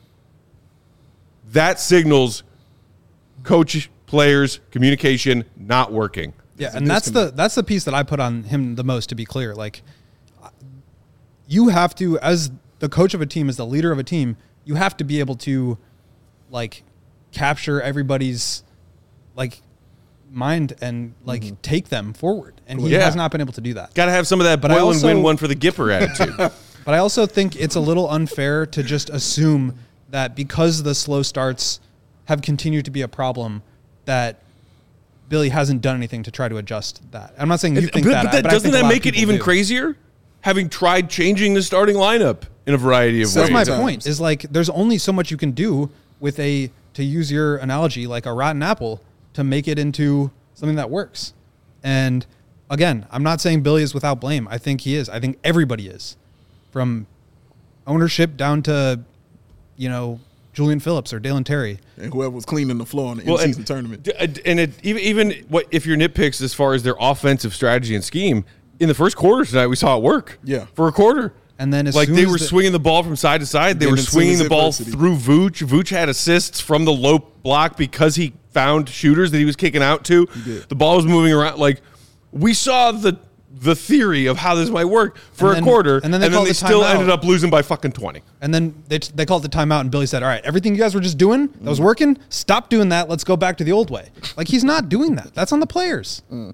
That signals coach, players, communication not working.
Yeah, and that's the that's the piece that I put on him the most, to be clear. Like, you have to, as the coach of a team, as the leader of a team, you have to be able to, like, capture everybody's, like, mind and, like, mm-hmm. take them forward. And he yeah. has not been able to do that.
Got to have some of that
but
boil
also,
and win one for the Gipper attitude.
But I also think it's a little unfair to just assume that because the slow starts have continued to be a problem, that Billy hasn't done anything to try to adjust that. I'm not saying you think
but,
that.
But, that,
but
doesn't that make it even
do.
crazier? Having tried changing the starting lineup in a variety of
so
ways.
That's my point. Is like there's only so much you can do with a, to use your analogy, like a rotten apple to make it into something that works. And again, I'm not saying Billy is without blame. I think he is. I think everybody is, from ownership down to, you know, Julian Phillips or Dalen Terry.
And whoever was cleaning the floor in the
well,
in-season
and,
tournament.
And it, even, even what if your nitpicks as far as their offensive strategy and scheme, in the first quarter tonight, we saw it work.
Yeah.
For a quarter.
And then as
like
soon
they
as
were
the,
swinging the ball from side to side. They were swinging the ball
adversity.
through Vooch. Vooch had assists from the low block because he found shooters that he was kicking out to. The ball was moving around. Like, we saw the the theory of how this might work for
then,
a quarter,
and then they,
and then they
the
still
timeout.
ended up losing by fucking twenty.
And then they they called the timeout, and Billy said, all right, everything you guys were just doing that was working, stop doing that. Let's go back to the old way. Like, he's not doing that. That's on the players. Mm.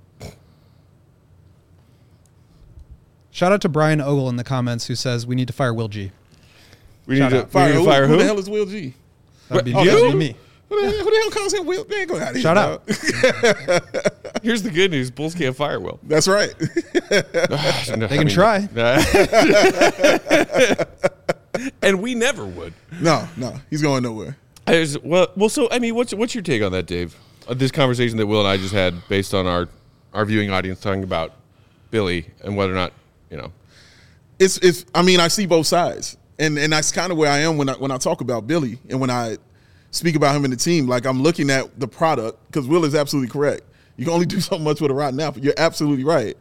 Shout out to Brian Ogle in the comments who says we need to fire Will G.
We
Shout
need to
out.
fire, we need to fire
who?
who?
Who the hell is Will G?
That'd be,
oh,
me.
you?
That'd be me.
Who the, hell, who the hell calls him Will? Man, go out here,
Shout
dog.
out.
Here's the good news. Bulls can't fire Will.
That's right.
They can try.
And we never would.
No, no. He's going nowhere.
I was, well, well, so, I mean, what's what's your take on that, Dave? Uh, this conversation that Will and I just had based on our, our viewing audience talking about Billy and whether or not, you know.
It's, it's, I mean, I see both sides. And and that's kind of where I am when I, when I talk about Billy and when I speak about him and the team. Like, I'm looking at the product, because Will is absolutely correct. You can only do so much with a rotten apple. You're absolutely right.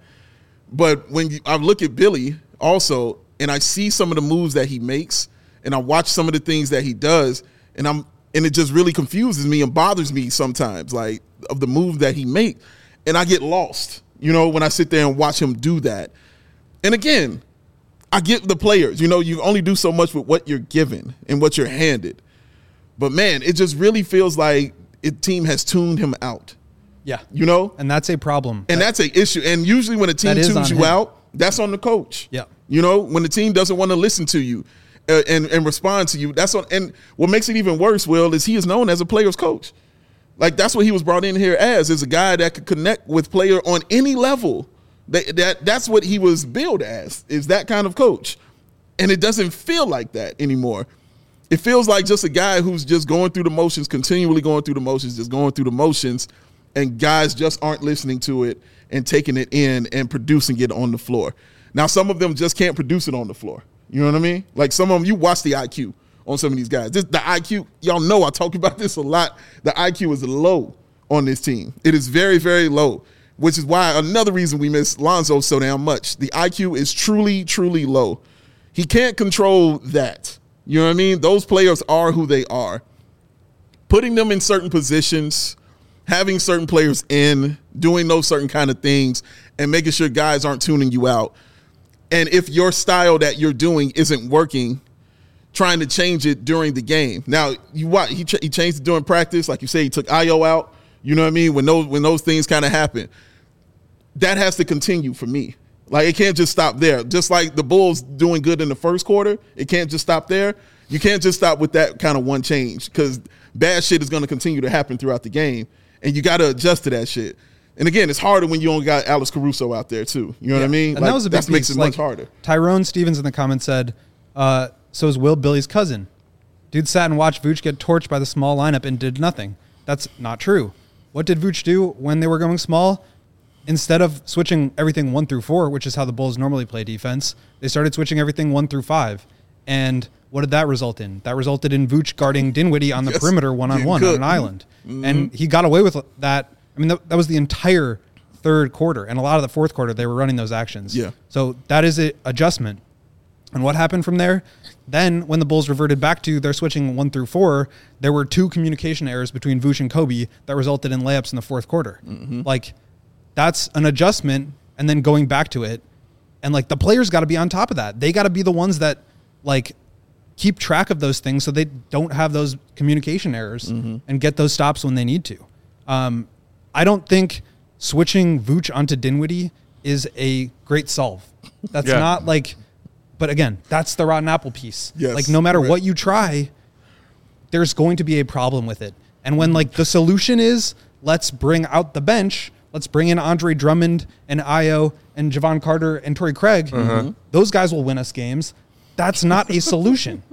But when you, I look at Billy also, and I see some of the moves that he makes, and I watch some of the things that he does, and I'm and it just really confuses me and bothers me sometimes, like, of the move that he makes, and I get lost, you know, when I sit there and watch him do that. And again, I get the players, you know, you only do so much with what you're given and what you're handed. But man, it just really feels like the team has tuned him out.
Yeah.
You know?
And that's a problem.
And
that,
that's an issue. And usually when a team tunes you him. out, that's on the coach.
Yeah.
You know, when the team doesn't want to listen to you uh, and, and respond to you, that's on. And what makes it even worse, Will, is he is known as a player's coach. Like, that's what he was brought in here as, is a guy that could connect with player on any level. That, that That's what he was billed as, is that kind of coach. And it doesn't feel like that anymore. It feels like just a guy who's just going through the motions, continually going through the motions, just going through the motions, and guys just aren't listening to it and taking it in and producing it on the floor. Now, some of them just can't produce it on the floor. You know what I mean? Like, some of them, you watch the I Q on some of these guys. This, the I Q, y'all know I talk about this a lot. The I Q is low on this team. It is very, very low, which is why another reason we miss Lonzo so damn much. The I Q is truly, truly low. He can't control that. You know what I mean? Those players are who they are. Putting them in certain positions, having certain players in, doing those certain kind of things, and making sure guys aren't tuning you out. And if your style that you're doing isn't working, trying to change it during the game. Now, you what he, ch- he changed it during practice, like you say, he took Ayo out. You know what I mean? When those when those things kind of happen, that has to continue for me. Like, it can't just stop there. Just like the Bulls doing good in the first quarter, it can't just stop there. You can't just stop with that kind of one change because bad shit is going to continue to happen throughout the game, and you got to adjust to that shit. And again, it's harder when you only got Alex Caruso out there too. You know yeah. what I mean?
And
like,
that was a big
that makes
piece.
it
like,
much harder.
Tyrone Stevens in the comments said, uh, so is Will Billy's cousin. Dude sat and watched Vooch get torched by the small lineup and did nothing. That's not true. What did Vooch do when they were going small? Instead of switching everything one through four, which is how the Bulls normally play defense, they started switching everything one through five. And what did that result in? That resulted in Vooch guarding Dinwiddie on the yes. perimeter one-on-one on an island. Mm-hmm. And he got away with that. I mean, that, that was the entire third quarter. And a lot of the fourth quarter, they were running those actions.
Yeah.
So that is an adjustment. And what happened from there? Then when the Bulls reverted back to their switching one through four, there were two communication errors between Vooch and Kobe that resulted in layups in the fourth quarter. Mm-hmm. Like, that's an adjustment, and then going back to it. And, like, the players got to be on top of that. They got to be the ones that, like, keep track of those things so they don't have those communication errors mm-hmm. and get those stops when they need to. Um, I don't think switching Vooch onto Dinwiddie is a great solve. That's yeah. not, like... But, again, that's the rotten apple piece.
Yes,
like, no matter
right.
what you try, there's going to be a problem with it. And when, like, the solution is let's bring out the bench... Let's bring in Andre Drummond and Ayo and Javon Carter and Torrey Craig. Mm-hmm. Those guys will win us games. That's not a solution.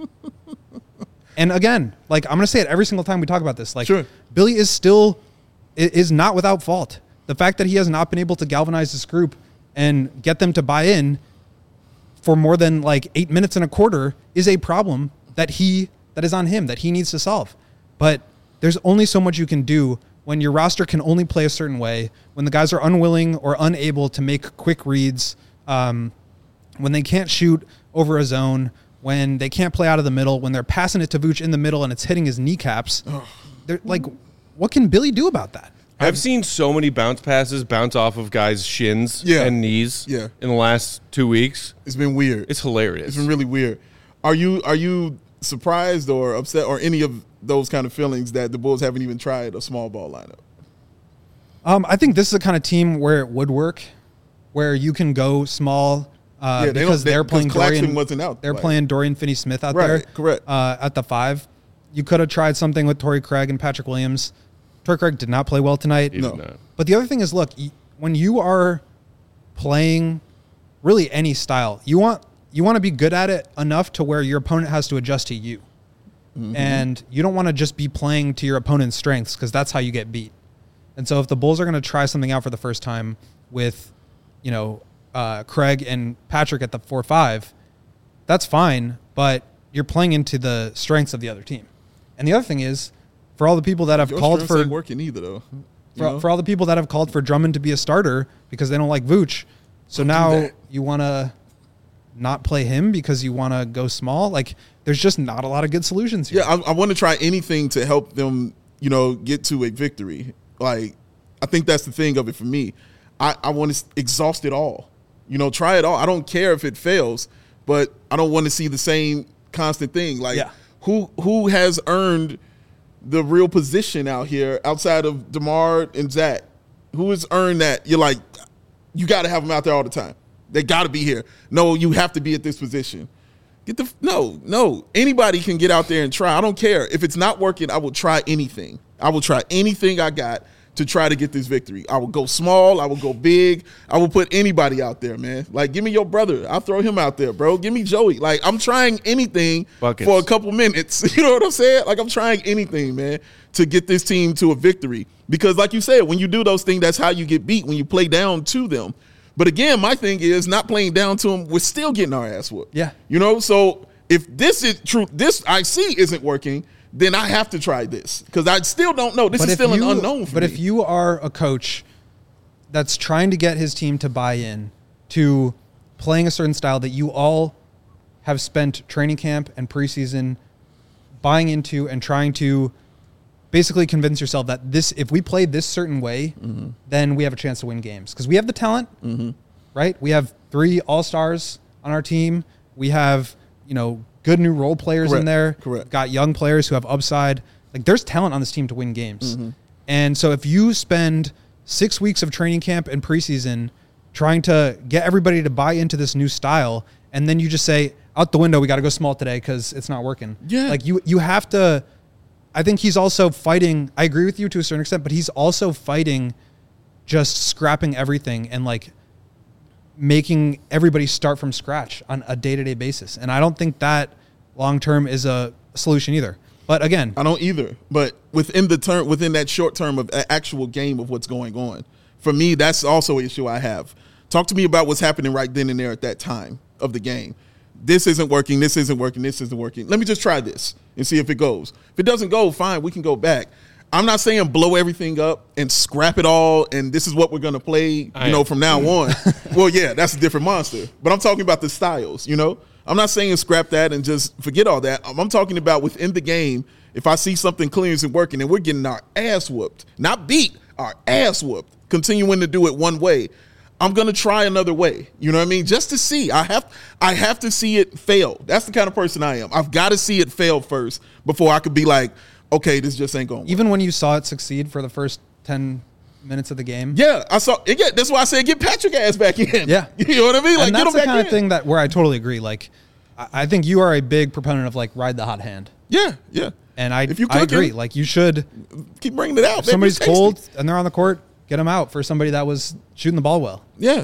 And again, like I'm going to say it every single time we talk about this. Like
sure.
Billy is still is not without fault. The fact that he has not been able to galvanize this group and get them to buy in for more than like eight minutes and a quarter is a problem that he that is on him that he needs to solve. But there's only so much you can do when your roster can only play a certain way, when the guys are unwilling or unable to make quick reads, um, when they can't shoot over a zone, when they can't play out of the middle, when they're passing it to Vooch in the middle and it's hitting his kneecaps. They're like, what can Billy do about that?
I've seen so many bounce passes bounce off of guys' shins
yeah.
and knees
yeah.
in the last two weeks.
It's been weird.
It's hilarious.
It's been really weird. Are you are you surprised or upset or any of those kind of feelings that the Bulls haven't even tried a small ball lineup?
Um, I think this is the kind of team where it would work, where you can go small uh,
yeah, they
because
they,
they're playing Dorian.
Wasn't out,
they're
like.
playing Dorian Finney-Smith out
right,
there.
Correct.
Uh, at the five, you could have tried something with Torrey Craig and Patrick Williams. Torrey Craig did not play well tonight.
He
no.
did not.
But the other thing is, look, when you are playing really any style, you want you want to be good at it enough to where your opponent has to adjust to you. Mm-hmm. And you don't want to just be playing to your opponent's strengths because that's how you get beat. And so if the Bulls are going to try something out for the first time with, you know, uh, Craig and Patrick at the four five, that's fine, but you're playing into the strengths of the other team. And the other thing is, for all the people that have
Your
called for...
ain't working either, though.
For, for all the people that have called for Drummond to be a starter because they don't like Vooch, so now you want to not play him because you want to go small? Like, there's just not a lot of good solutions here.
Yeah, I, I want to try anything to help them, you know, get to a victory. Like, I think that's the thing of it for me. I, I want to exhaust it all. You know, try it all. I don't care if it fails, but I don't want to see the same constant thing. Like,
yeah.
who who has earned the real position out here outside of DeMar and Zach? Who has earned that? You're like, you got to have them out there all the time. They got to be here. No, you have to be at this position. Get the no, no. Anybody can get out there and try. I don't care. If it's not working, I will try anything. I will try anything I got to try to get this victory. I will go small. I will go big. I will put anybody out there, man. Like, give me your brother. I'll throw him out there, bro. Give me Joey. Like, I'm trying anything
Buckets.
for a couple minutes. You know what I'm saying? Like, I'm trying anything, man, to get this team to a victory. Because, like you said, when you do those things, that's how you get beat, when you play down to them. But again, my thing is not playing down to them. We're still getting our ass whooped.
Yeah.
You know, so if this is true, this I see isn't working, then I have to try this because I still don't know. This
but
is still
you,
an unknown for
But
me.
if you are a coach that's trying to get his team to buy in to playing a certain style that you all have spent training camp and preseason buying into and trying to basically convince yourself that this, if we play this certain way, mm-hmm. then we have a chance to win games. Because we have the talent, mm-hmm. right? We have three all-stars on our team. We have, you know, good new role players
Correct.
in there.
Correct.
We've got young players who have upside. Like, there's talent on this team to win games. Mm-hmm. And so if you spend six weeks of training camp and preseason trying to get everybody to buy into this new style, and then you just say, out the window, we got to go small today because it's not working.
Yeah.
Like, you, you have to – I think he's also fighting – I agree with you to a certain extent, but he's also fighting just scrapping everything and, like, making everybody start from scratch on a day-to-day basis. And I don't think that long-term is a solution either. But again,
I don't either. But within the term, within that short term of a- actual game of what's going on, for me, that's also an issue I have. Talk to me about what's happening right then and there at that time of the game. This isn't working. This isn't working. This isn't working. Let me just try this and see if it goes. If it doesn't go, fine, we can go back. I'm not saying blow everything up and scrap it all and this is what we're going to play, you
I
know,
am.
from now on. Well, yeah, that's a different monster. But I'm talking about the styles, you know. I'm not saying scrap that and just forget all that. I'm talking about within the game, if I see something clean isn't working and we're getting our ass whooped, not beat, our ass whooped, continuing to do it one way, I'm going to try another way. You know what I mean? Just to see. I have I have to see it fail. That's the kind of person I am. I've got to see it fail first before I could be like, okay, this just ain't going to work.
even when you saw it succeed for the first ten minutes of the game.
Yeah, I saw. Yeah, that's why I said get Patrick ass back in.
Yeah.
You know what I mean? Like
And
get
that's
him
the
back
kind
in.
of thing that where I totally agree. Like, I I think you are a big proponent of, like, ride the hot hand.
Yeah, yeah.
And I,
If you
I
cooking,
agree. Like, you should,
keep bringing it out.
if
baby.
somebody's
It's tasty.
cold and they're on the court, get them out for somebody that was shooting the ball well.
Yeah.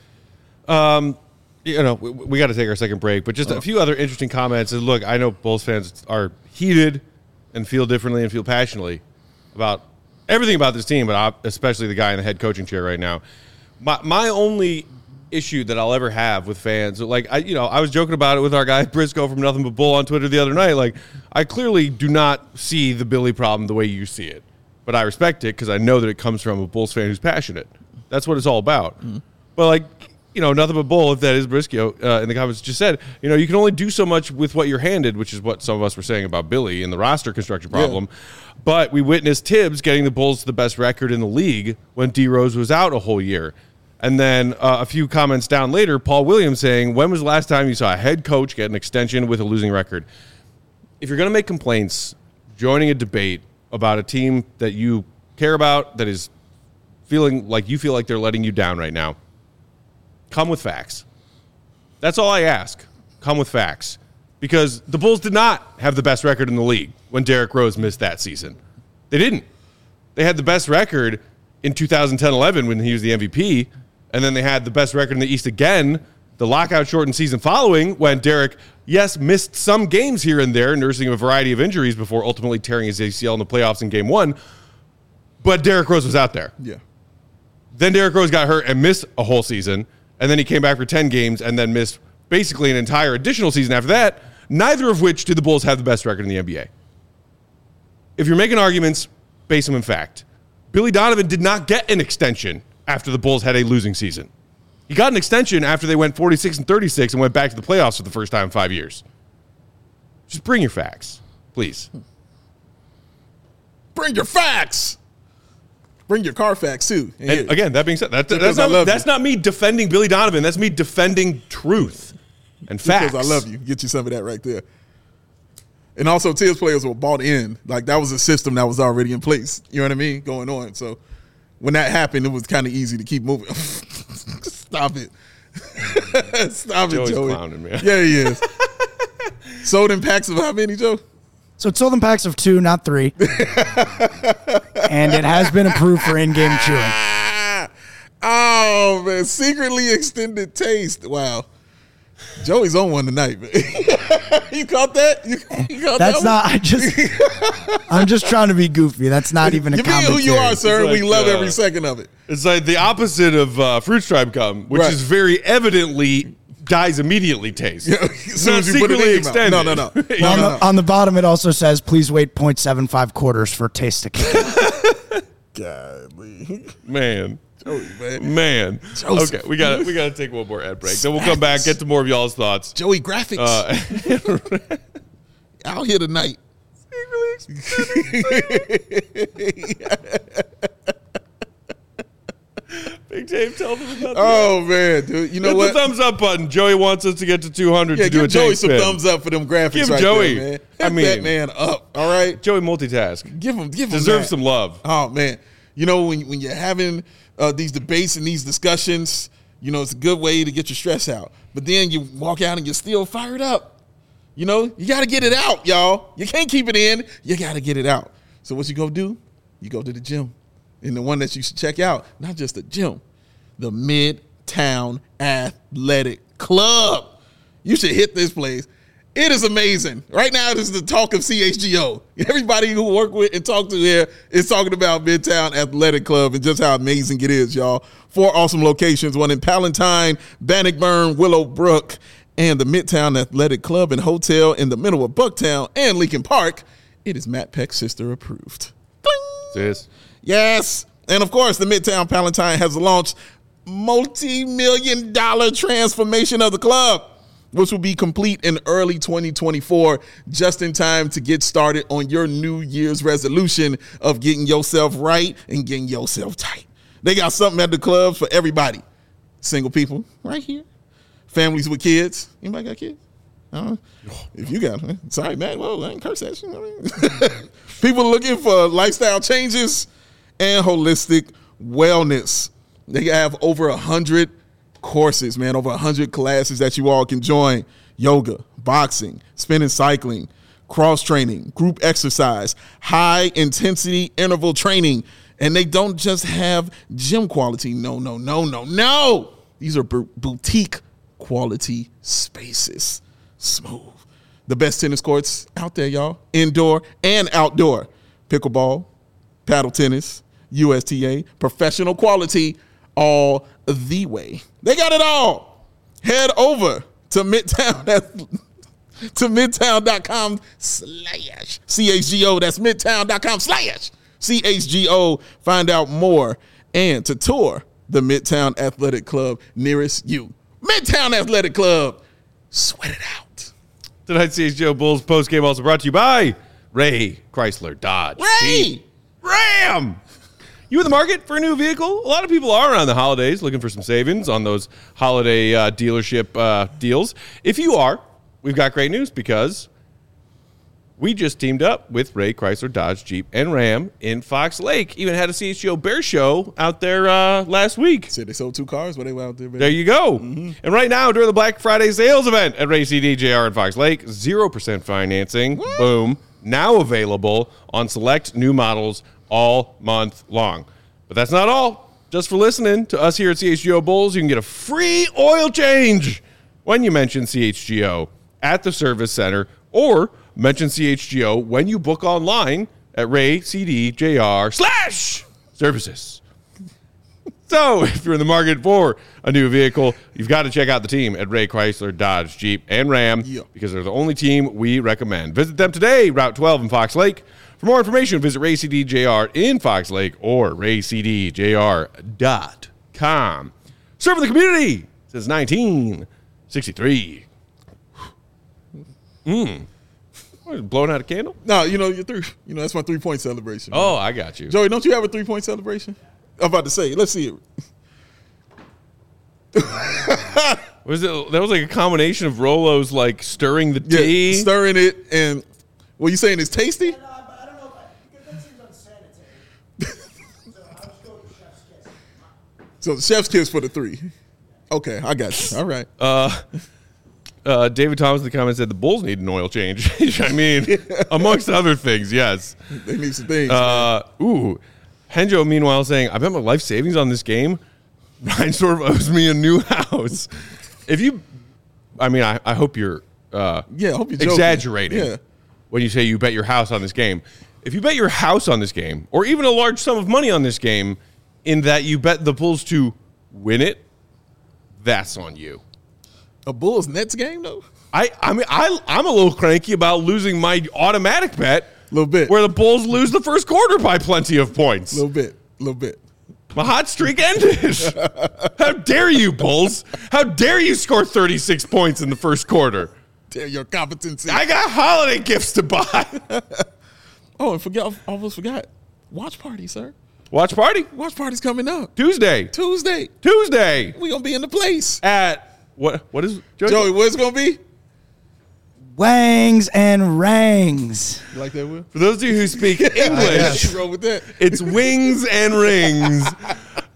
You know, we, we got to take our second break, but just a few other interesting comments. And look, I know Bulls fans are heated and feel differently and feel passionately about everything about this team, but I- especially the guy in the head coaching chair right now. My my only issue that I'll ever have with fans, like I, you know, I was joking about it with our guy Briscoe from Nothing But Bull on Twitter the other night. Like, I clearly do not see the Billy problem the way you see it, but I respect it because I know that it comes from a Bulls fan who's passionate. That's what it's all about.
Mm-hmm.
But like, you know, Nothing But Bull, if that is Briscoe uh, in the comments just said, you know, you can only do so much with what you're handed, which is what some of us were saying about Billy and the roster construction problem. But we witnessed Tibbs getting the Bulls to the best record in the league when D Rose was out a whole year. And then uh, a few comments down later, Paul Williams saying, when was the last time you saw a head coach get an extension with a losing record? If you're going to make complaints, joining a debate about a team that you care about, that is feeling like you feel like they're letting you down right now, come with facts. That's all I ask. Come with facts. Because the Bulls did not have the best record in the league when Derrick Rose missed that season. They didn't. They had the best record in two thousand ten eleven when he was the M V P, and then they had the best record in the East again, the lockout-shortened season following, when Derrick, yes, missed some games here and there, nursing a variety of injuries before ultimately tearing his A C L in the playoffs in game one, but Derrick Rose was out there.
Yeah.
Then Derrick Rose got hurt and missed a whole season, and then he came back for ten games and then missed basically an entire additional season after that, neither of which did the Bulls have the best record in the N B A. If you're making arguments, base them in fact. Billy Donovan did not get an extension after the Bulls had a losing season. He got an extension after they went forty-six and thirty-six and went back to the playoffs for the first time in five years. Just bring your facts, please.
Bring your facts. Bring your car facts too. And
And
here.
again, that being said, that,
Because
that's,
I
not,
love
that's
you.
not me defending Billy Donovan. That's me defending truth and facts.
Because I love you. Get you some of that right there. And also, Tibbs players were bought in. Like, that was a system that was already in place. You know what I mean? Going on. So, when that happened, it was kind of easy to keep moving. Stop it. Stop
Joey's
it, Joey.
clowning, man.
Yeah, he is. Sold in packs of how many, Joe?
So it's sold in packs of two, not three. And it has been approved for in-game chewing.
Ah, oh, man. Secretly extended taste. Wow. Joey's on one tonight, man. You caught that? You, you caught
That's
that
not, I just, I'm just trying to be goofy. That's not even a
You being
commentary.
who you are, sir.
It's
we
like,
love
uh,
every second of it.
It's like the opposite of uh, Fruit Stripe gum, which
Right.
is very evidently dies immediately taste.
As
It's
soon
not
as you put it in
secretly
your mouth.
extended.
No, no, no. No,
on,
no,
the,
no.
on the bottom, it also says, please wait zero point seven five quarters for taste to kick in.
Godly.
Man.
Joey, man.
Man.
Joseph.
Okay, we got we got to take one more ad break. Then we'll come back, get to more of y'all's thoughts.
Joey graphics.
Uh,
Out here tonight.
Big Dave, tell them about that.
Oh, man, dude. You know
Hit
what?
the thumbs up button. Joey wants us to get to two hundred
Yeah,
to do a
give Joey
tank
some
spin.
thumbs up for them graphics
Give
right
Joey-
there, man.
I
Hit
mean-
that man up, all right?
Joey multitask.
Give him, give him
Deserves
that.
some love.
Oh, man. You know, when, when you're having uh, these debates and these discussions, You know, it's a good way to get your stress out. But then you walk out and you're still fired up. You know, you got to get it out, y'all. You can't keep it in. You got to get it out. So what you go do? You go to the gym. And the one that you should check out, not just the gym, the Midtown Athletic Club. You should hit this place. It is amazing. Right now, this is the talk of C H G O. Everybody who work with and talk to here is talking about Midtown Athletic Club and just how amazing it is, y'all. Four awesome locations, one in Palatine, Bannockburn, Willowbrook, and the Midtown Athletic Club and Hotel in the middle of Bucktown and Lincoln Park. It is Matt Peck's sister approved.
Sis.
Yes. And of course, the Midtown Palatine has launched multi-million dollar transformation of the club, which will be complete in early twenty twenty-four, just in time to get started on your New Year's resolution of getting yourself right and getting yourself tight. They got something at the clubs for everybody. Single people, right here. Families with kids. Anybody got kids? Uh, if you got them, sorry, man. Well, I ain't curse at you. I mean. People looking for lifestyle changes and holistic wellness. They have over one hundred courses, man, over one hundred classes that you all can join. Yoga, boxing, spinning cycling, cross-training, group exercise, high-intensity interval training. And they don't just have gym quality. No, no, no, no, no. These are b- boutique quality spaces. Smooth. The best tennis courts out there, y'all. Indoor and outdoor. Pickleball, paddle tennis, U S T A, professional quality, all the way. They got it all. Head over to Midtown to midtown.com slash C H G O. That's midtown.com slash C H G O. Find out more and to tour the Midtown Athletic Club nearest you. Midtown Athletic Club. Sweat it out.
Tonight's C H G O Bulls postgame also brought to you by Ray Chrysler Dodge.
Ray!
Jeep, Ram! You in the market for a new vehicle? A lot of people are around the holidays looking for some savings on those holiday uh, dealership uh, deals. If you are, we've got great news because we just teamed up with Ray Chrysler Dodge Jeep and Ram in Fox Lake. Even had a C H G O Bear Show out there uh, last week.
Said they sold two cars, but they went out there. Man.
There you go. Mm-hmm. And right now, during the Black Friday sales event at Ray C D J R in Fox Lake, zero percent financing. What? Boom. Now available on select new models all month long. But that's not all. Just for listening to us here at C H G O Bulls, you can get a free oil change when you mention C H G O at the service center or mention C H G O when you book online at Ray C D J R slash services. So if you're in the market for a new vehicle, you've got to check out the team at Ray Chrysler Dodge Jeep and Ram yeah. because they're the only team we recommend. Visit them today, Route twelve in Fox Lake. For more information, visit Ray C D J R in Fox Lake or ray c d j r dot com. Serving the community since nineteen sixty-three. Mmm. Blowing out a candle?
No, you know, your three, you know, that's my three-point celebration. Man.
Oh, I got you.
Joey, don't you have a three-point celebration? I'm about to say, let's see
it. was it that was like a combination of Rolo's like stirring the tea?
Yeah, stirring it, and what you saying is tasty?
Yeah, no, I, I don't know if I, because that seems unsanitary. So I'll just go with the chef's kiss.
So the chef's kiss for the three. Okay, I got you. All right.
Uh Uh, David Thomas in the comments said the Bulls need an oil change. I mean, amongst other things, yes.
They need some things.
Uh, ooh. Henjo, meanwhile, saying, I bet my life savings on this game. Ryan sort of owes me a new house. If you, I mean, I, I hope you're uh,
yeah, I hope you're
exaggerating
yeah.
when you say you bet your house on this game. If you bet your house on this game, or even a large sum of money on this game, in that you bet the Bulls to win it, that's on you.
A Bulls Nets game, though?
I, I mean, I, I'm a little cranky about losing my automatic bet.
A little bit.
Where the Bulls lose the first quarter by plenty of points.
A little bit. A little bit.
My hot streak ended. How dare you, Bulls? How dare you score thirty-six points in the first quarter?
Dare your competency.
I got holiday gifts to buy.
Oh, and forget, I almost forgot. Watch party, sir.
Watch party?
Watch party's coming up.
Tuesday.
Tuesday.
Tuesday.
We're going to be in the place.
At... What? What is Joey?
Joey, what's it going to be?
Wangs and rangs.
You like that, Will?
For those of you who speak English,
roll with that.
It's wings and rings.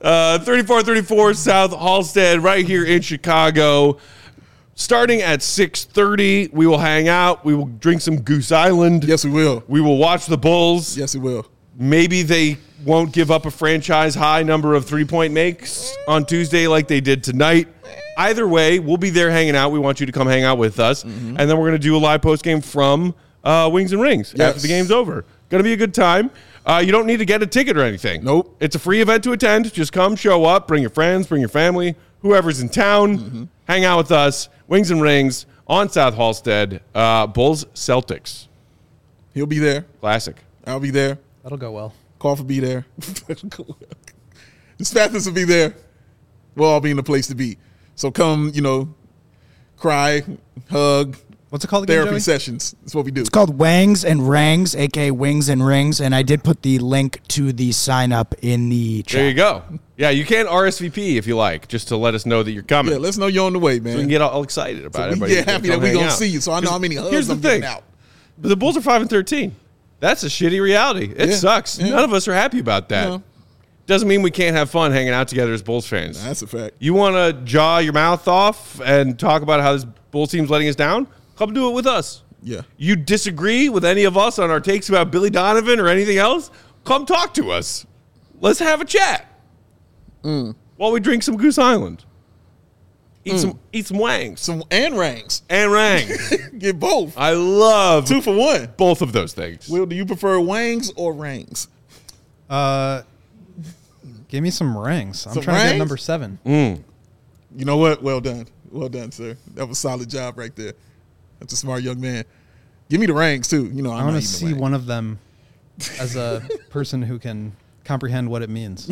Uh, thirty-four thirty-four South Halstead, right here in Chicago. Starting at six thirty, we will hang out. We will drink some Goose Island.
Yes, we will.
We will watch the Bulls.
Yes, we will.
Maybe they won't give up a franchise high number of three-point makes on Tuesday like they did tonight. Either way, we'll be there hanging out. We want you to come hang out with us. Mm-hmm. And then we're going to do a live post-game from uh, Wings and Rings
yes.
after the game's over. Going to be a good time. Uh, you don't need to get a ticket or anything.
Nope.
It's a free event to attend. Just come, show up, bring your friends, bring your family, whoever's in town. Mm-hmm. Hang out with us. Wings and Rings on South Halstead. Uh, Bulls, Celtics.
He'll be there.
Classic.
I'll be there.
That'll go well.
Koff will be there. The Spathers will be there. We'll all be in the place to be. So come, you know, cry, hug.
What's it called again,
Therapy
Joey?
sessions. That's what we do.
It's called Wangs and Rangs, a k a. Wings and Rings, and I did put the link to the sign up in the chat.
There you go. Yeah, you can R S V P if you like, just to let us know that you're coming.
Yeah, let's know you're on the way, man.
So we can get all excited about it.
So we get happy that we're going to see you, so I know how many hugs
Here's the
I'm
thing.
getting out.
But the Bulls are five and thirteen. That's a shitty reality. It
Yeah,
sucks.
yeah.
None of us are happy about that.
No.
Doesn't mean we can't have fun hanging out together as Bulls fans.
That's a fact.
You want to jaw your mouth off and talk about how this Bulls team's letting us down? Come do it with us.
Yeah.
You disagree with any of us on our takes about Billy Donovan or anything else? Come talk to us. Let's have a chat
Mm.
while we drink some Goose Island. Eat some eat some wangs
Some and rangs.
and rangs.
Get both.
I love
Two for one.
both of those things.
Will, do you prefer wangs or rangs?
Uh, give me some rings. I'm
Some
trying to get
rings?
number seven.
You know what? Well done. Well done, sir. That was a solid job right there. That's a smart young man. Give me the rangs, too. You know, I'm
I want
not
to
eating the
see
rangs.
one of them as a person who can comprehend what it means.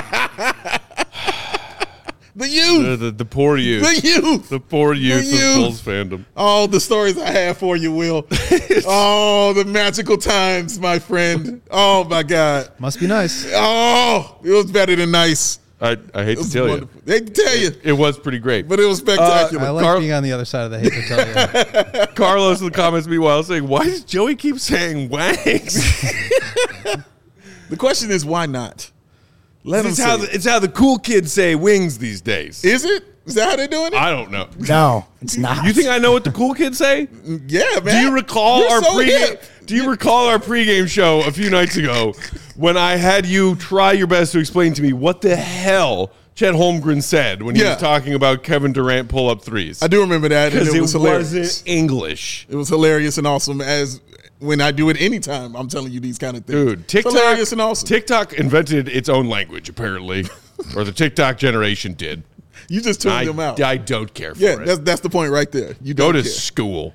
The youth.
The, the, the poor youth.
The youth.
The poor youth
youth.
of Bulls fandom.
All the stories I have for you, Will. Oh, the magical times, my friend. Oh, my God.
Must be nice.
Oh, it was better than nice.
I, I hate
It
to
was
tell
wonderful. They can tell you,
you. It was pretty great.
but it was spectacular.
I like
Carl-
being on the other side of the hate to tell you.
Carlos in the comments meanwhile saying, why does Joey keep saying wangs?
The question is, why not? Let them
it's,
say
how
it.
the, it's how the cool kids say wings these days.
Is it? Is that how they're doing it?
I don't know.
No, it's not.
You think I know what the cool kids say?
yeah, man.
Do you recall
You're
our
so
pregame?
hip.
Do you recall our pregame show a few nights ago when I had you try your best to explain to me what the hell Chet Holmgren said when he
Yeah.
was talking about Kevin Durant pull-up threes?
I do remember that, and
Because
it
it
was hilarious.
wasn't English.
It was hilarious and awesome. As when I do it anytime, I'm telling you these kind of things.
Dude,
It's
TikTok,
hilarious and awesome.
TikTok invented its own language, apparently, or the TikTok generation did.
You just tuned
I,
them out.
I don't care for
yeah,
it.
that's that's the point right there. You
Go
don't
to
care.
school.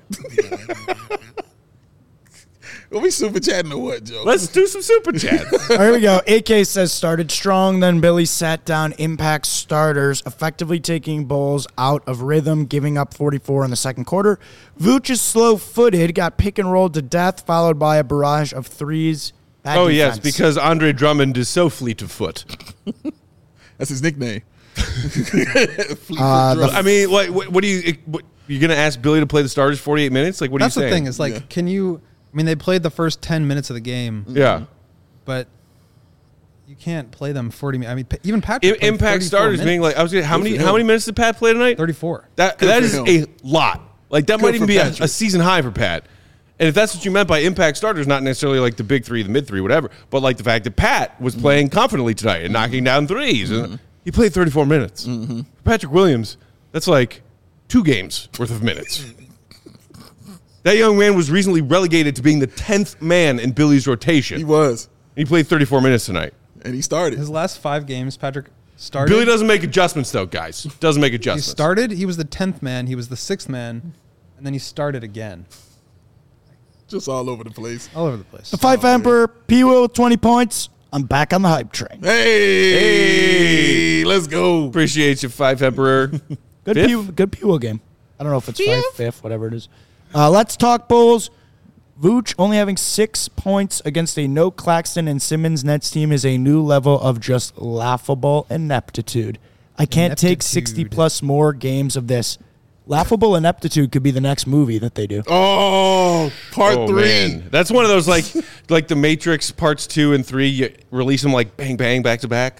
Are we super chatting or what, Joe?
Let's do some super chats.
Here we go. A K says started strong, then Billy sat down impact starters, effectively taking Bulls out of rhythm, giving up forty-four in the second quarter. Vooch is slow-footed, got pick and rolled to death, followed by a barrage of threes. Bad
Oh, yes,
defense.
because Andre Drummond is so fleet of foot.
That's his nickname.
Uh, the
I mean, like, what, what do you, what, you're going to ask Billy to play the starters forty-eight minutes? Like, what
That's
are you
the
saying?
thing. Is like,
Yeah.
can you? I mean, they played the first ten minutes of the game,
Yeah.
but you can't play them forty. mi- I mean, pa- even
I-
Patrick. played
impact
thirty-four
starters being
minutes.
like, I was gonna, how
Good
many
for
how
him.
many minutes did Pat play tonight?
thirty-four.
That
Good
that
for
is
him.
a lot. Like that
Good
might even
for
be a,
Patrick.
a season high for Pat. And if that's what you meant by impact starters, not necessarily like the big three, the mid three, whatever, but like the fact that Pat was playing confidently tonight and knocking down threes, and he played thirty-four minutes. Patrick Williams, that's like two games worth of minutes. That young man was recently relegated to being the tenth man in Billy's rotation.
He was,
He played thirty-four minutes tonight.
and he started.
His last five games, Patrick started.
Billy doesn't make adjustments, though, guys. Doesn't make
He
adjustments.
started. He was the tenth man. He was the sixth man, and then he started again,
Just all over the place.
all over the place.
the Five Emperor, P. Will with twenty points. I'm back on the hype train.
Hey, let's go.
Appreciate you, Five Emperor.
Good
Fifth?
P. Good P. Will game. I don't know if it's five, fifth, whatever it is. Uh, let's talk Bulls. Vooch only having six points against a no Claxton and Simmons Nets team is a new level of just laughable ineptitude. I can't take sixty
Ineptitude.
plus more games of this. Laughable ineptitude could be the next movie that they do.
Oh, part
Oh,
three.
man. That's one of those, like, like the Matrix parts two and three, you release them like bang, bang, back to back.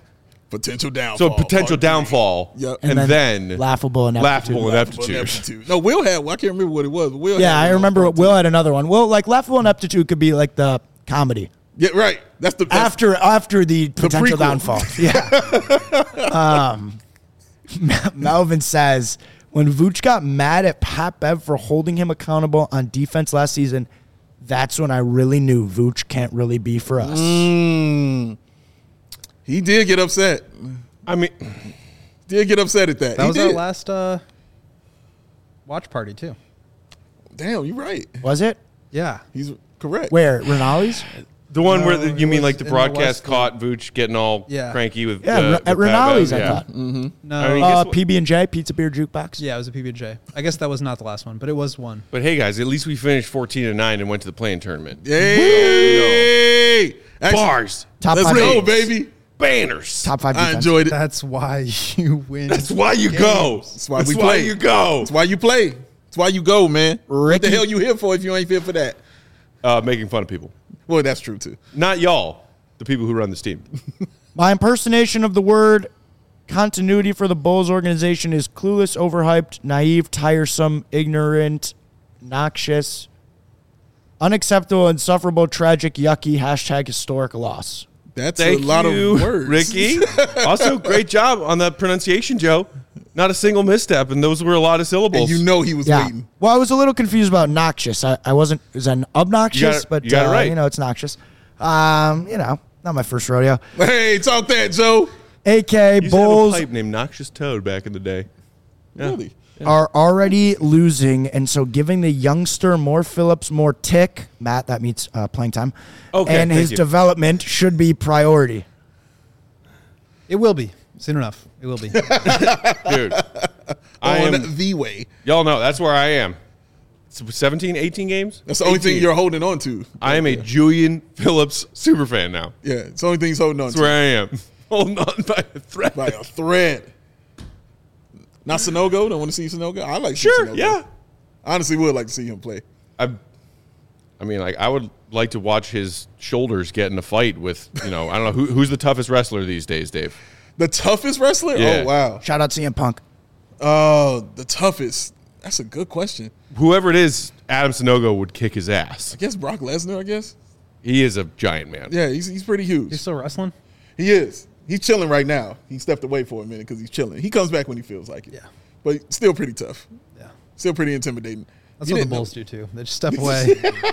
Potential downfall.
So potential
part three.
Yep.
Yep.
And,
And
then,
then laughable ineptitude.
laughable
Laughable
ineptitude.
ineptitude. No, Will had. Well, I can't remember what it was. But Will
Yeah,
had
I
one
remember
part
Will
two.
had another one. Well, like laughable ineptitude could be like the comedy.
Yeah, right. That's the that's,
after after the potential
prequel.
downfall. Yeah. um, Melvin says, when Vooch got mad at Pat Bev for holding him accountable on defense last season, that's when I really knew Vooch can't really be for us.
Mm, he did get upset.
I mean,
Did get upset at that.
That
he
was
did.
our last uh, watch party too.
Damn, you're right.
Was it?
Yeah.
He's correct.
Where? Rinaldi's?
the one
No,
where the,
it
you mean
was
like the
in the
broadcast
West
caught Vooch getting all
Yeah.
cranky with
Yeah,
uh,
Ri-
with
at
Pat
Rinaldi's,
Bev?
I
Yeah.
thought.
No.
I mean,
Uh,
guess what-
P B and J, Pizza Beer Jukebox.
Yeah, it was a P B and J. I guess that was not the last one, but it was one.
But hey, guys, at least we finished fourteen and nine and went to the playing tournament.
Yay! Actually,
Bars,
Top
let's
five
go,
defense.
baby.
banners.
Top five
I
defense.
enjoyed it.
That's why you win.
That's why you go.
That's why
That's
we
why
play.
you go.
That's why you play. That's why you go, man. What
Ricky-
the hell you here for if you ain't here for that?
Uh, making fun of people,
Well, that's true too.
not y'all, the people who run this team.
My impersonation of the word continuity for the Bulls organization is clueless, overhyped, naive, tiresome, ignorant, noxious, unacceptable, insufferable, tragic, yucky, hashtag historic loss.
That's
Thank
a lot
you,
of words,
Ricky. Also, great job on the pronunciation, Joe. Not a single misstep, and those were a lot of syllables.
And you know he was
Yeah.
waiting.
Well, I was a little confused about noxious. I, I wasn't, is that obnoxious?
You got it-
but,
you got it
uh,
right.
you know, it's noxious. Um, you know, not my first rodeo.
Hey, talk that, Joe.
A K
You used to
Bulls
have a pipe named Noxious Toad back in the day. Yeah.
Really?
are already losing, and so giving the youngster more Phillips, more tick, Matt, that means uh, playing time,
Okay,
and
thank
his
you.
development should be priority.
It will be soon enough. It will be.
Dude, I
On
am,
the way.
y'all know that's where I am. seventeen, eighteen games?
That's the only thing
eighteen.
you're holding on to.
I am a Julian Phillips super fan now.
Yeah, it's the only thing he's holding on
That's
to.
where I am. Holding on by a thread.
By a thread. Not Sonogo? Don't want to see Sonogo? I like to see
Sure,
Sonogo.
yeah.
I honestly would like to see him play.
I, I mean, like, I would like to watch his shoulders get in a fight with, you know, I don't know, who, who's the toughest wrestler these days, Dave?
The toughest wrestler?
Yeah.
Oh, wow.
Shout out C M Punk.
Oh, the toughest. That's a good question.
Whoever it is, Adam Sonogo would kick his ass.
I guess Brock Lesnar, I guess.
He is a giant man.
Yeah, he's, he's pretty huge.
You're still wrestling?
He is. He's chilling right now. He stepped away for a minute because he's chilling. He comes back when he feels like it.
Yeah.
But still pretty tough.
Yeah.
Still pretty intimidating.
That's
You
what the
didn't know.
Bulls do too. They just step away.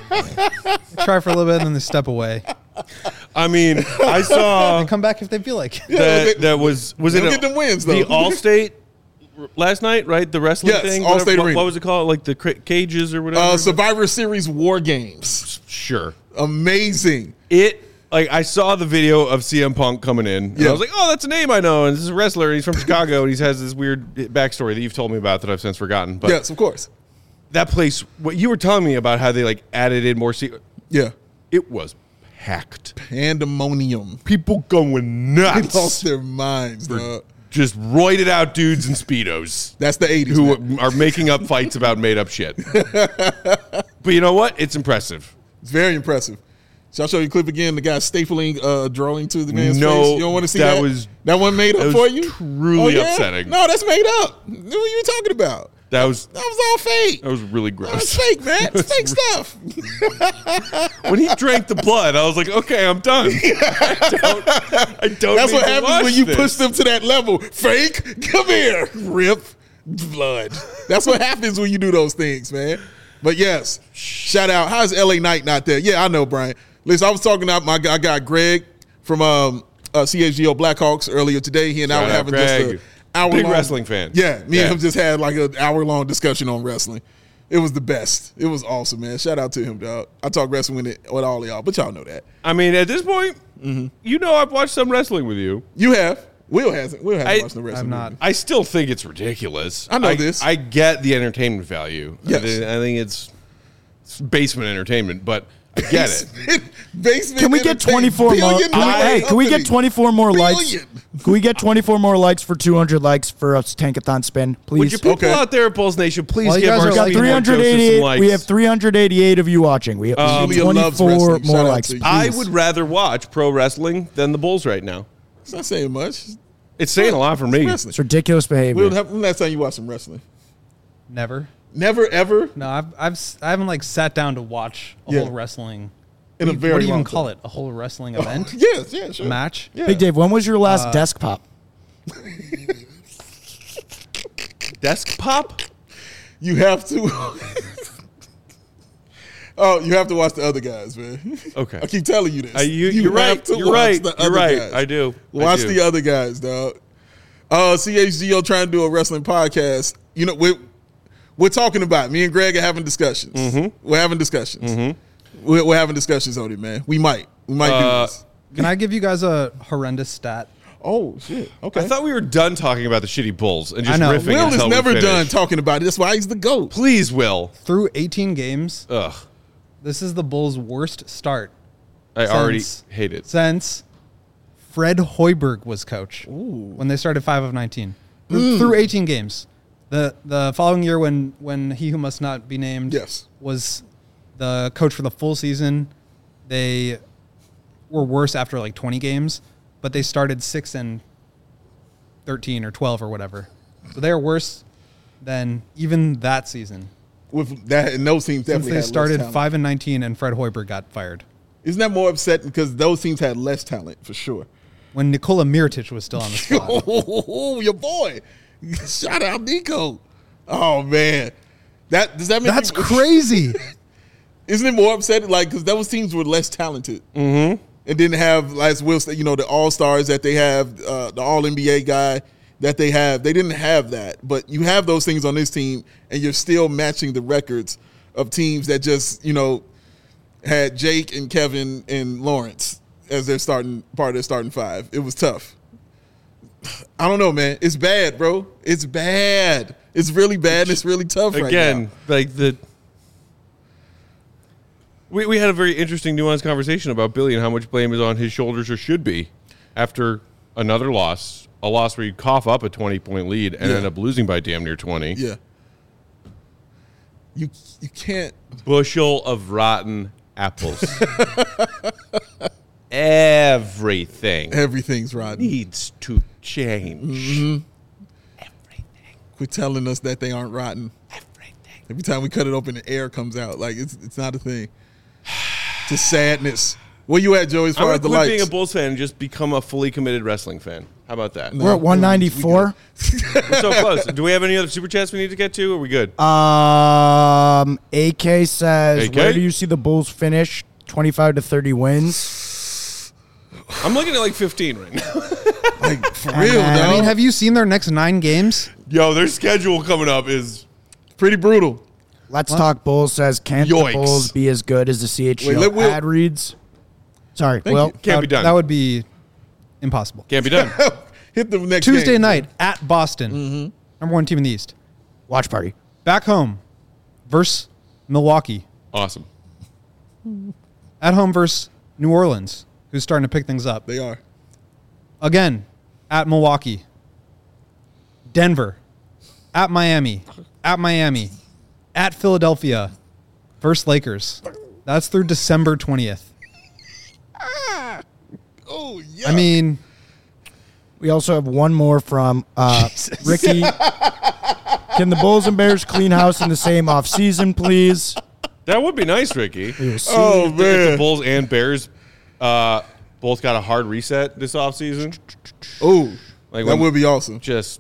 They try for a little bit and then they step away.
I mean, I saw
And come back if they feel like it.
that
they-
that was was
they
it
don't
a-
get them wins,
the
though.
Allstate last night, right? The wrestling
Yes,
thing.
Allstate
whatever- what,
Arena.
what was it called? Like the cra- cages or whatever.
Uh, Survivor Series War Games.
Sure.
Amazing.
It like I saw the video of C M Punk coming in. And
Yeah.
I was like, oh, that's a name I know, and this is a wrestler. And he's from Chicago, and he has this weird backstory that you've told me about that I've since forgotten. But
Yes, of course.
that place, what you were telling me about how they like added in more. Se-
Yeah.
it was packed.
Pandemonium.
People going
They
nuts.
lost their minds, dog.
Just roided out dudes in speedos
That's the eighties.
who
man.
are making up fights about made up shit. But you know what? It's impressive.
It's very impressive. Shall I show you a clip again? The guy stapling uh, drawing to the man's
No,
face. You don't want to see
that
that?
was-
that one made up
that
for
was
you?
truly
Oh, yeah?
upsetting.
No, that's made up. What are you talking about?
That was
That was all fake.
that was really
That was
gross.
fake, man. It's fake stuff.
When he drank the blood, I was like, okay, I'm done. I don't. I don't
That's
need
what
to
happens
watch
when you
this.
push them to that level. Fake, come here, rip, blood. That's what happens when you do those things, man. But yes, shout out. How's L A Knight not there? Yeah, I know, Brian. Listen, I was talking about my guy, guy Greg from um, uh, C H G O Blackhawks earlier today. He and I
Shout
were
out,
having
Greg.
just a hour
Big
long,
wrestling fan.
Yeah, me
Yeah.
and him just had like an hour long discussion on wrestling. It was the best. It was awesome, man. Shout out to him, dog. I talk wrestling with, it, with all of y'all, but y'all know that.
I mean, at this point,
Mm-hmm.
you know, I've watched some wrestling with you.
You have. Will hasn't. Will hasn't
I-
watched the wrestling.
I've not.
with
I still think it's ridiculous.
I know this.
I get the entertainment value. I,
Yes.
thi- I think it's, it's basement entertainment, but I
me.
get it.
Basement
Can we get
entertainment.
twenty-four more?
Billion
Can we,
dollar
hey, can we get
company.
twenty-four more likes?
Billion.
Can we get twenty-four more likes for two hundred likes for a Tankathon spin, please?
Would you people
Okay.
out there at Bulls Nation please
While you
give
guys
our
are
We got
like
Speed More Joseph some
three hundred eighty-eight.
likes?
We have three hundred eighty-eight of you watching. We have
Um,
Julia loves
twenty-four
wrestling. Shout
more
out
likes.
to you.
I
please.
would rather watch pro wrestling than the Bulls right now.
It's not saying much.
It's saying a lot for me.
Wrestling.
It's ridiculous behavior.
Will, when last time you watched some wrestling?
Never.
Never, ever?
No, I've, I've s- I haven't like sat down to watch a
Yeah.
whole wrestling.
In a
what do you-
very
what do you
long
even call
time.
it? A whole wrestling event?
Yes, yeah, sure.
Match?
Yeah.
Big Dave, when was your last
Uh,
desk pop?
Desk pop?
You have to. Oh, you have to watch the other guys, man.
Okay.
I keep telling you this.
Uh, you,
you
you're
have
right.
to
You're
watch
right.
the
You're
other
right.
guys.
I do. I
Watch
do.
the other guys, dog. Uh, C H G O trying to do a wrestling podcast. You know, we're, we're talking about it. Me and Greg are having discussions.
Mm-hmm.
We're having discussions. We're, we're having discussions on it, man. We might. We might
Uh,
do this.
Can I give you guys a horrendous stat?
Oh, shit. Okay.
I thought we were done talking about the shitty Bulls and just
I know.
riffing
Will
until
is
we
never
finish.
done talking about it. That's why he's the GOAT.
Please, Will.
Through eighteen games,
Ugh.
this is the Bulls' worst start
I already
Since-
hate it.
since Fred Hoiberg was coach when they started five of nineteen. Through, through eighteen games. The the following year when, when he who must not be named
Yes.
was the coach for the full season, they were worse after like twenty games, but they started six and thirteen or twelve or whatever. So they are worse than even that season.
With that, and those teams
Since
definitely
they
had less
started
talent.
five and nineteen and Fred Hoiberg got fired.
Isn't that more upsetting because those teams had less talent for sure?
When Nikola Mirotic was still on the squad.
Oh, your boy! Shout out Nico. Oh man, that does that make
That's
you-
crazy.
Isn't it more upsetting? Like because those teams were less talented mm-hmm. and didn't have, as Will said, you know, the All Stars that they have, uh, the All N B A guy that they have. They didn't have that, but you have those things on this team, and you're still matching the records of teams that just, you know, had Jake and Kevin and Lawrence as their starting part of their starting five. It was tough. I don't know, man. It's bad, bro. It's bad. It's really bad. And it's really tough right
Again,
now.
like the. We, we had a very interesting, nuanced conversation about Billy and how much blame is on his shoulders or should be after another loss, a loss where you cough up a twenty-point lead and
Yeah.
end up losing by damn near twenty.
Yeah. You you can't.
Bushel of rotten apples. Everything
Everything's rotten.
needs to change.
Mm-hmm.
Everything.
Quit telling us that they aren't rotten.
Everything.
Every time we cut it open, the air comes out. Like it's it's not a thing. Just sadness. Where you at, Joey? As
I'm
far
going
as
to
the
quit being a
lights,
Bulls fan and just become a fully committed wrestling fan. How about that?
No.
We're at one ninety-four.
We're so close. Do we have any other super chats we need to get to? Or are we good?
Um, A K says,
A K?
where do you see the Bulls finish? twenty-five to thirty wins.
I'm looking at like fifteen right now.
like for real,
then-
though.
I mean, have you seen their next nine games?
Yo, their schedule coming up is
pretty brutal.
Let's Talk Bulls says, can't
Yikes.
the Bulls be as good as the C H G O
Wait, let Will-
ad reads? Sorry,
Thank
Will.
you.
can't
that,
be
would-
done.
That would be impossible.
Can't be done.
Hit the next
Tuesday
game.
night at Boston,
Mm-hmm.
number one team in the East.
Watch party.
Back home versus Milwaukee.
Awesome.
At home versus New Orleans, who's starting to pick things up.
They are.
Again, at Milwaukee. Denver. At Miami. At Miami. At Philadelphia. Versus Lakers. That's through December twentieth.
Oh yeah.
I mean,
We also have one more from uh, Ricky. Can the Bulls and Bears clean house in the same offseason, please?
That would be nice, Ricky.
We will see.
oh
If the
man.
Bulls and Bears uh, both got a hard reset this offseason,
Oh,
Like
that
when-
would be awesome.
just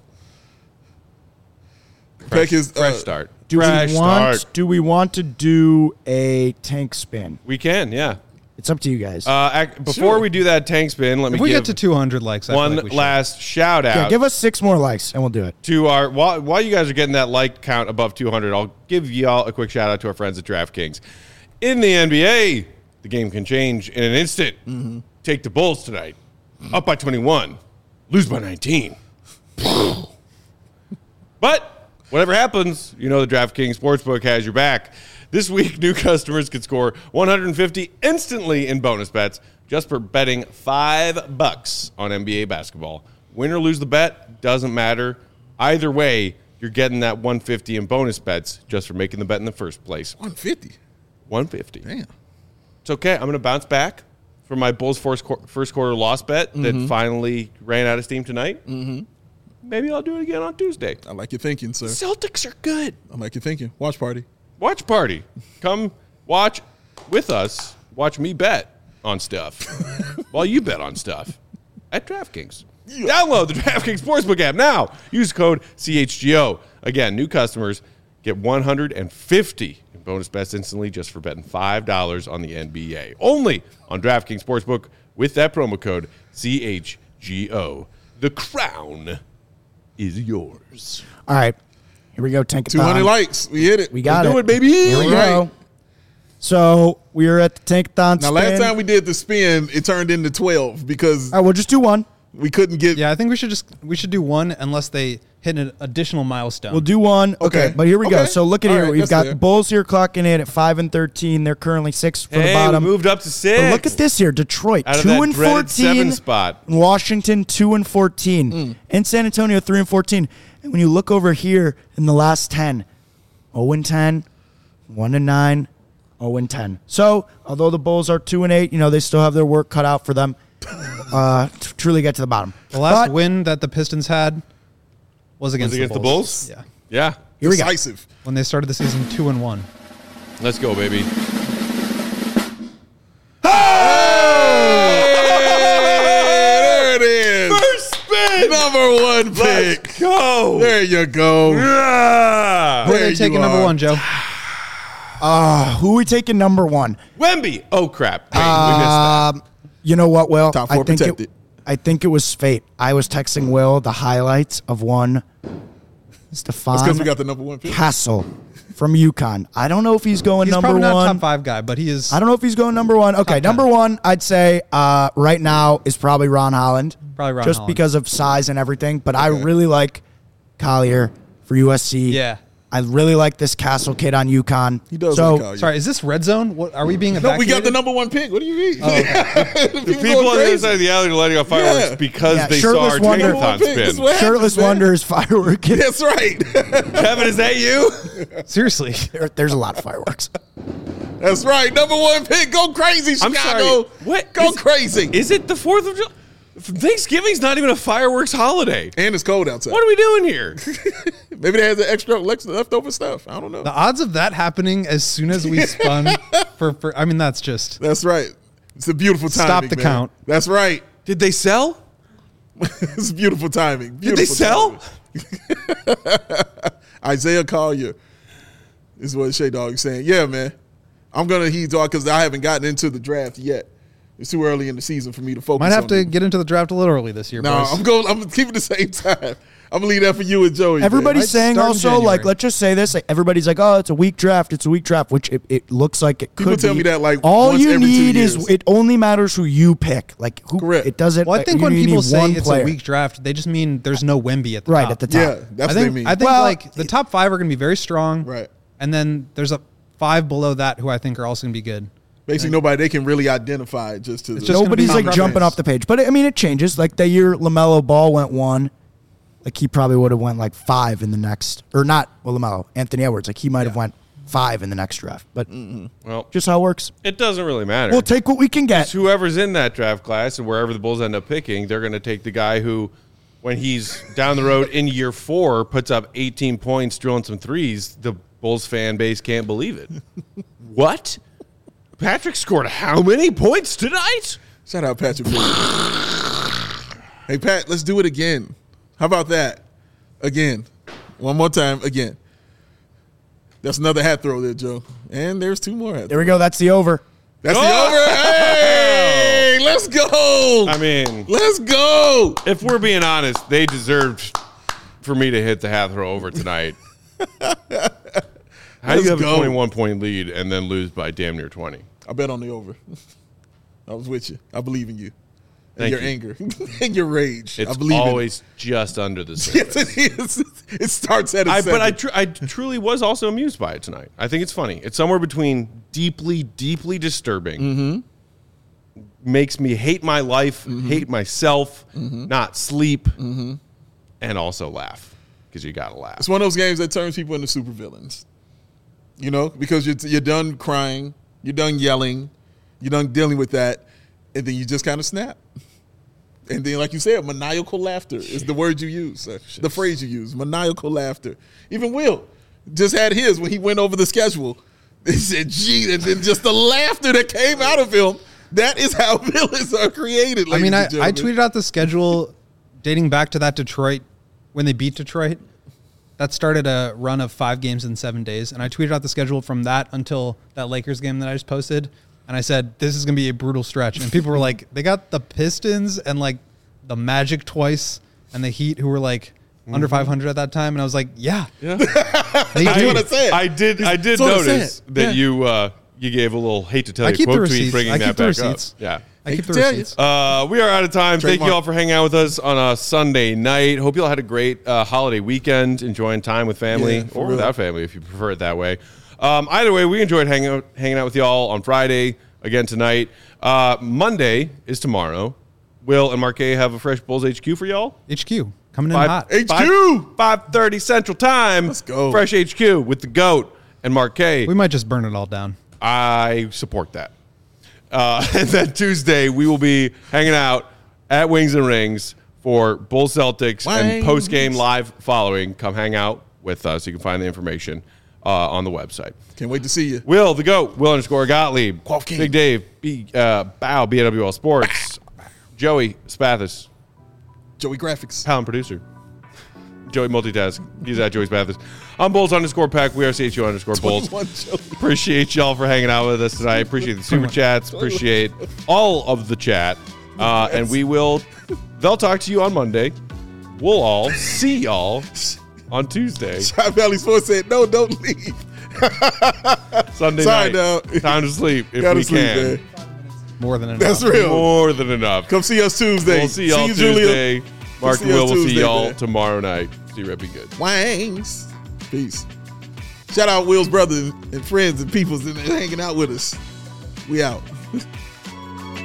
Peck
fresh,
is, uh,
fresh start.
do
fresh
we want?
start.
Do we want to do a tank spin?
We can, yeah.
It's up to you guys.
Uh, ac- before
Sure.
we do that tank spin, let me
if we
give
get to two hundred likes, I feel
one
like we should.
last shout out
yeah, give us six more likes and we'll do it.
to our while, while you guys are getting that like count above two hundred. I'll give y'all a quick shout out to our friends at DraftKings. In the N B A, the game can change in an instant.
Mm-hmm.
Take the Bulls tonight, up by twenty-one, lose by nineteen. But whatever happens, you know the DraftKings Sportsbook has your back. This week, new customers could score one hundred fifty instantly in bonus bets just for betting five bucks on N B A basketball. Win or lose the bet, doesn't matter. Either way, you're getting that one hundred fifty in bonus bets just for making the bet in the first place.
one fifty.
one hundred fifty.
Damn.
It's okay. I'm going to bounce back. from my Bulls first, qu- first quarter loss bet that
Mm-hmm.
finally ran out of steam tonight. Mm-hmm. Maybe I'll do it again on Tuesday.
I like your thinking, sir.
Celtics are good.
I like your thinking. Watch party.
Watch party. Come watch with us. Watch me bet on stuff while you bet on stuff at DraftKings. Download the DraftKings Sportsbook app now. Use code C H G O. Again, new customers get one hundred fifty in bonus bets instantly just for betting five dollars on the N B A. Only on DraftKings Sportsbook with that promo code C H G O. The crown is yours.
All right. Here we go. Tank
two hundred likes. We hit it.
We got
Let's
it.
do it, baby.
Here we
All right.
go. So we are at the Tankathon
Now,
spin.
last time we did the spin, it turned into twelve because
All right, we'll just do one.
we couldn't get.
Yeah, I think we should just we should do one unless they hit an additional milestone.
We'll do one. Okay,
Okay.
but here we go.
Okay.
So look at
All
here.
right,
We've
that's
got
fair.
the Bulls here clocking in at five and thirteen. They're currently six for the
Hey,
bottom.
we moved up to six.
But look at this here. Detroit
Out of
two
that
and
dreaded seven
fourteen.
spot.
Washington two and fourteen.
Mm.
And San Antonio three and fourteen. And when you look over here in the last ten, zero and ten, one and nine, zero and ten. So although the Bulls are two and eight, you know they still have their work cut out for them uh, to truly get to the bottom.
the last
But
win that the Pistons had was against,
Was it against the Bulls?
Yeah,
Yeah.
here we go.
decisive.
when they started the season two and one.
Let's go, baby.
There it is.
First spin.
Number one pick.
Let's go.
There you go.
Yeah.
Who are
There
they
you
taking number
are.
one, Joe?
Uh, who are we taking number one?
Wemby. Oh, crap. Wait, we
Uh,
missed that.
Um, you know what, Will?
Top four
I think
protected.
It, I think it was fate. I was texting Will the highlights of one
That's
Stefan
because we got the number one pick.
Castle from UConn. I don't know if he's going
He's
number
probably not a
one.
top five guy, but he is.
I don't know if he's going number one. Okay,
ten.
number one, I'd say uh, right now is probably Ron Holland.
Probably Ron
just
Holland.
because of size and everything. But I really like Collier for U S C.
Yeah.
I really like this Castle kid on UConn.
He does
So
like Collier.
Sorry, is this red zone? What are we being
No,
evacuated?
we got the number one pick. What do you mean?
The people on the other side of the alley are lighting off fireworks
Yeah.
because
Yeah,
they saw
shirtless
our
wonder.
Tankathon
This is
spin.
what
Shirtless
happens, man.
Wonders firework kid.
That's right.
Kevin, is that you?
Seriously.
There- there's a lot of fireworks.
That's right. Number one pick. Go crazy,
I'm
Chicago.
sorry. What?
Go
Is-
crazy.
Is it the fourth of July? Thanksgiving's not even a fireworks holiday.
and it's cold outside.
What are we doing here?
Maybe they have the extra lex- leftover stuff. I don't know.
The odds of that happening as soon as we spun for, for I mean, that's just
That's right. It's a beautiful timing.
Stop the
man.
count.
That's right.
Did they sell?
It's beautiful timing.
Did they
Beautiful
sell?
timing. Isaiah Collier is what Shay Dog is saying. Yeah, man. I'm gonna heed dog because I haven't gotten into the draft yet. It's too early in the season for me to focus.
might have
on
to
it.
get into the draft a little early this year,
No,
boys.
I'm going. I'm keeping the same time. I'm gonna leave that for you and Joey. man.
Everybody's
Might
saying
start in
also,
January.
like, let's just say this. Like, everybody's like, oh, it's a weak draft. It's a weak draft, which it, it looks like it
People
could
tell
be.
me that, like,
all
once
you
every two
need
years.
is it only matters who you pick. Like, who
Correct.
it doesn't.
Well, I
like,
think
you
when
need
people say
one
it's
player.
a weak draft, they just mean there's no Wemby at the
right
top.
at the top.
Yeah, that's
I
what
think
they mean.
I think
Well,
like the top five are going to be very strong,
Right.
And then there's a five below that who I think are also going to be good.
Basically, nobody they can really identify just to.
It's
The,
just gonna
Nobody's
be
like
preference.
jumping off the page, but I mean, it changes. Like the year LaMelo Ball went one, like he probably would have went like five in the next, or not. Well, LaMelo, Anthony Edwards, like he might have went five in the next draft. But
Well,
just how it works.
it doesn't really matter.
We'll take what we can get.
It's whoever's in that draft class and wherever the Bulls end up picking, they're going to take the guy who, when he's down the road in year four, puts up eighteen points, drilling some threes. The Bulls fan base can't believe it. What? Patrick scored how many points tonight?
Shout out Patrick. Beverley. Hey Pat, let's do it again. How about that? Again, one more time. Again. That's another hat throw there, Joe. And there's two more hat.
There we go. That's the over.
That's
Oh!
the over. Hey, let's go.
I mean,
Let's go.
if we're being honest, they deserved for me to hit the hat throw over tonight. How do
Let's
you have
go.
a twenty-one point lead and then lose by damn near twenty?
I bet on the over. I was with you. I believe in you. And
Thank
your
you.
anger and your rage.
It's
I believe
always just under the
in
surface.
it. Yes, it is. It starts at a
I,
seven.
but I, tr- I truly was also amused by it tonight. I think it's funny. It's somewhere between deeply, deeply disturbing,
Mm-hmm.
makes me hate my life, hate myself, not sleep, and also laugh because you got to laugh.
It's one of those games that turns people into supervillains. You know, because you're, you're done crying, you're done yelling, you're done dealing with that, and then you just kind of snap. And then, like you said, maniacal laughter is the word you use, uh, the phrase you use, maniacal laughter. Even Will just had his when he went over the schedule. He said, gee, and then just the laughter that came out of him. That is how villains are created,
I mean, I,
and
I
gentlemen.
tweeted out the schedule dating back to that Detroit, when they beat Detroit. That started a run of five games in seven days. And I tweeted out the schedule from that until that Lakers game that I just posted. And I said, this is going to be a brutal stretch. And people were like, they got the Pistons and like the Magic twice and the Heat, who were like mm-hmm. under five hundred at that time. And I was like, yeah.
Yeah.
They
That's
do.
what I said.
I did. I did
That's what I
notice
said.
that
Yeah.
you uh, you gave a little hate to tell
I
you
keep the
quote tweet
receipts.
bringing
I
that
keep the
back up.
receipts.
Yeah.
I keep the
tell you.
receipts.
Uh, we are out of time. Thank
Trademark.
you all for hanging out with us on a Sunday night. Hope you all had a great uh, holiday weekend, enjoying time with family
Yeah, for
or
real.
without family if you prefer it that way. Um, either way, we enjoyed hanging out, hanging out with y'all on Friday, again tonight. Uh, Monday is tomorrow. Will and Marquet have a Fresh Bulls H Q for y'all?
H Q coming in
Five-
hot.
H Q.
five thirty Central Time.
Let's go.
Fresh H Q with the GOAT and Marquet.
We might just burn it all down.
I support that. Uh, and then Tuesday, we will be hanging out at Wings and Rings for Bull Celtics and
Wings.
post-game live following. Come hang out with us. You can find the information uh, on the website.
Can't wait to see you.
Will, the GOAT, Will underscore Gottlieb,
Quaff King.
Big Dave, B, uh, Bow, B N W L Sports, Joey Spathis,
Joey Graphics.
talent producer. Joey multitask. He's at Joey Spathis. I'm Bulls underscore Peck. We are C H U underscore Bulls.
twenty-one Joey.
Appreciate y'all for hanging out with us tonight. Appreciate the super chats. Appreciate all of the chat. Uh, and we will, they'll talk to you on Monday. We'll all see y'all on Tuesday.
Shot Valley Sports said, no, don't leave.
Sunday
Sorry,
night.
dog.
Time to sleep if
Gotta
we
sleep,
can.
man.
More than enough.
That's real.
More than enough.
Come see us Tuesday.
We'll see y'all
you, Julia.
Tuesday. Mark
see
and Will
us
will see
Tuesday,
y'all
man.
tomorrow night. See you, be good.
Wangs. Peace. Shout out Will's brothers and friends and peoples and hanging out with us. We out.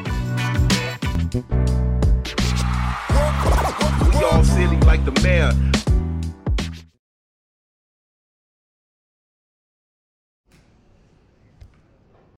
We all silly like the mayor.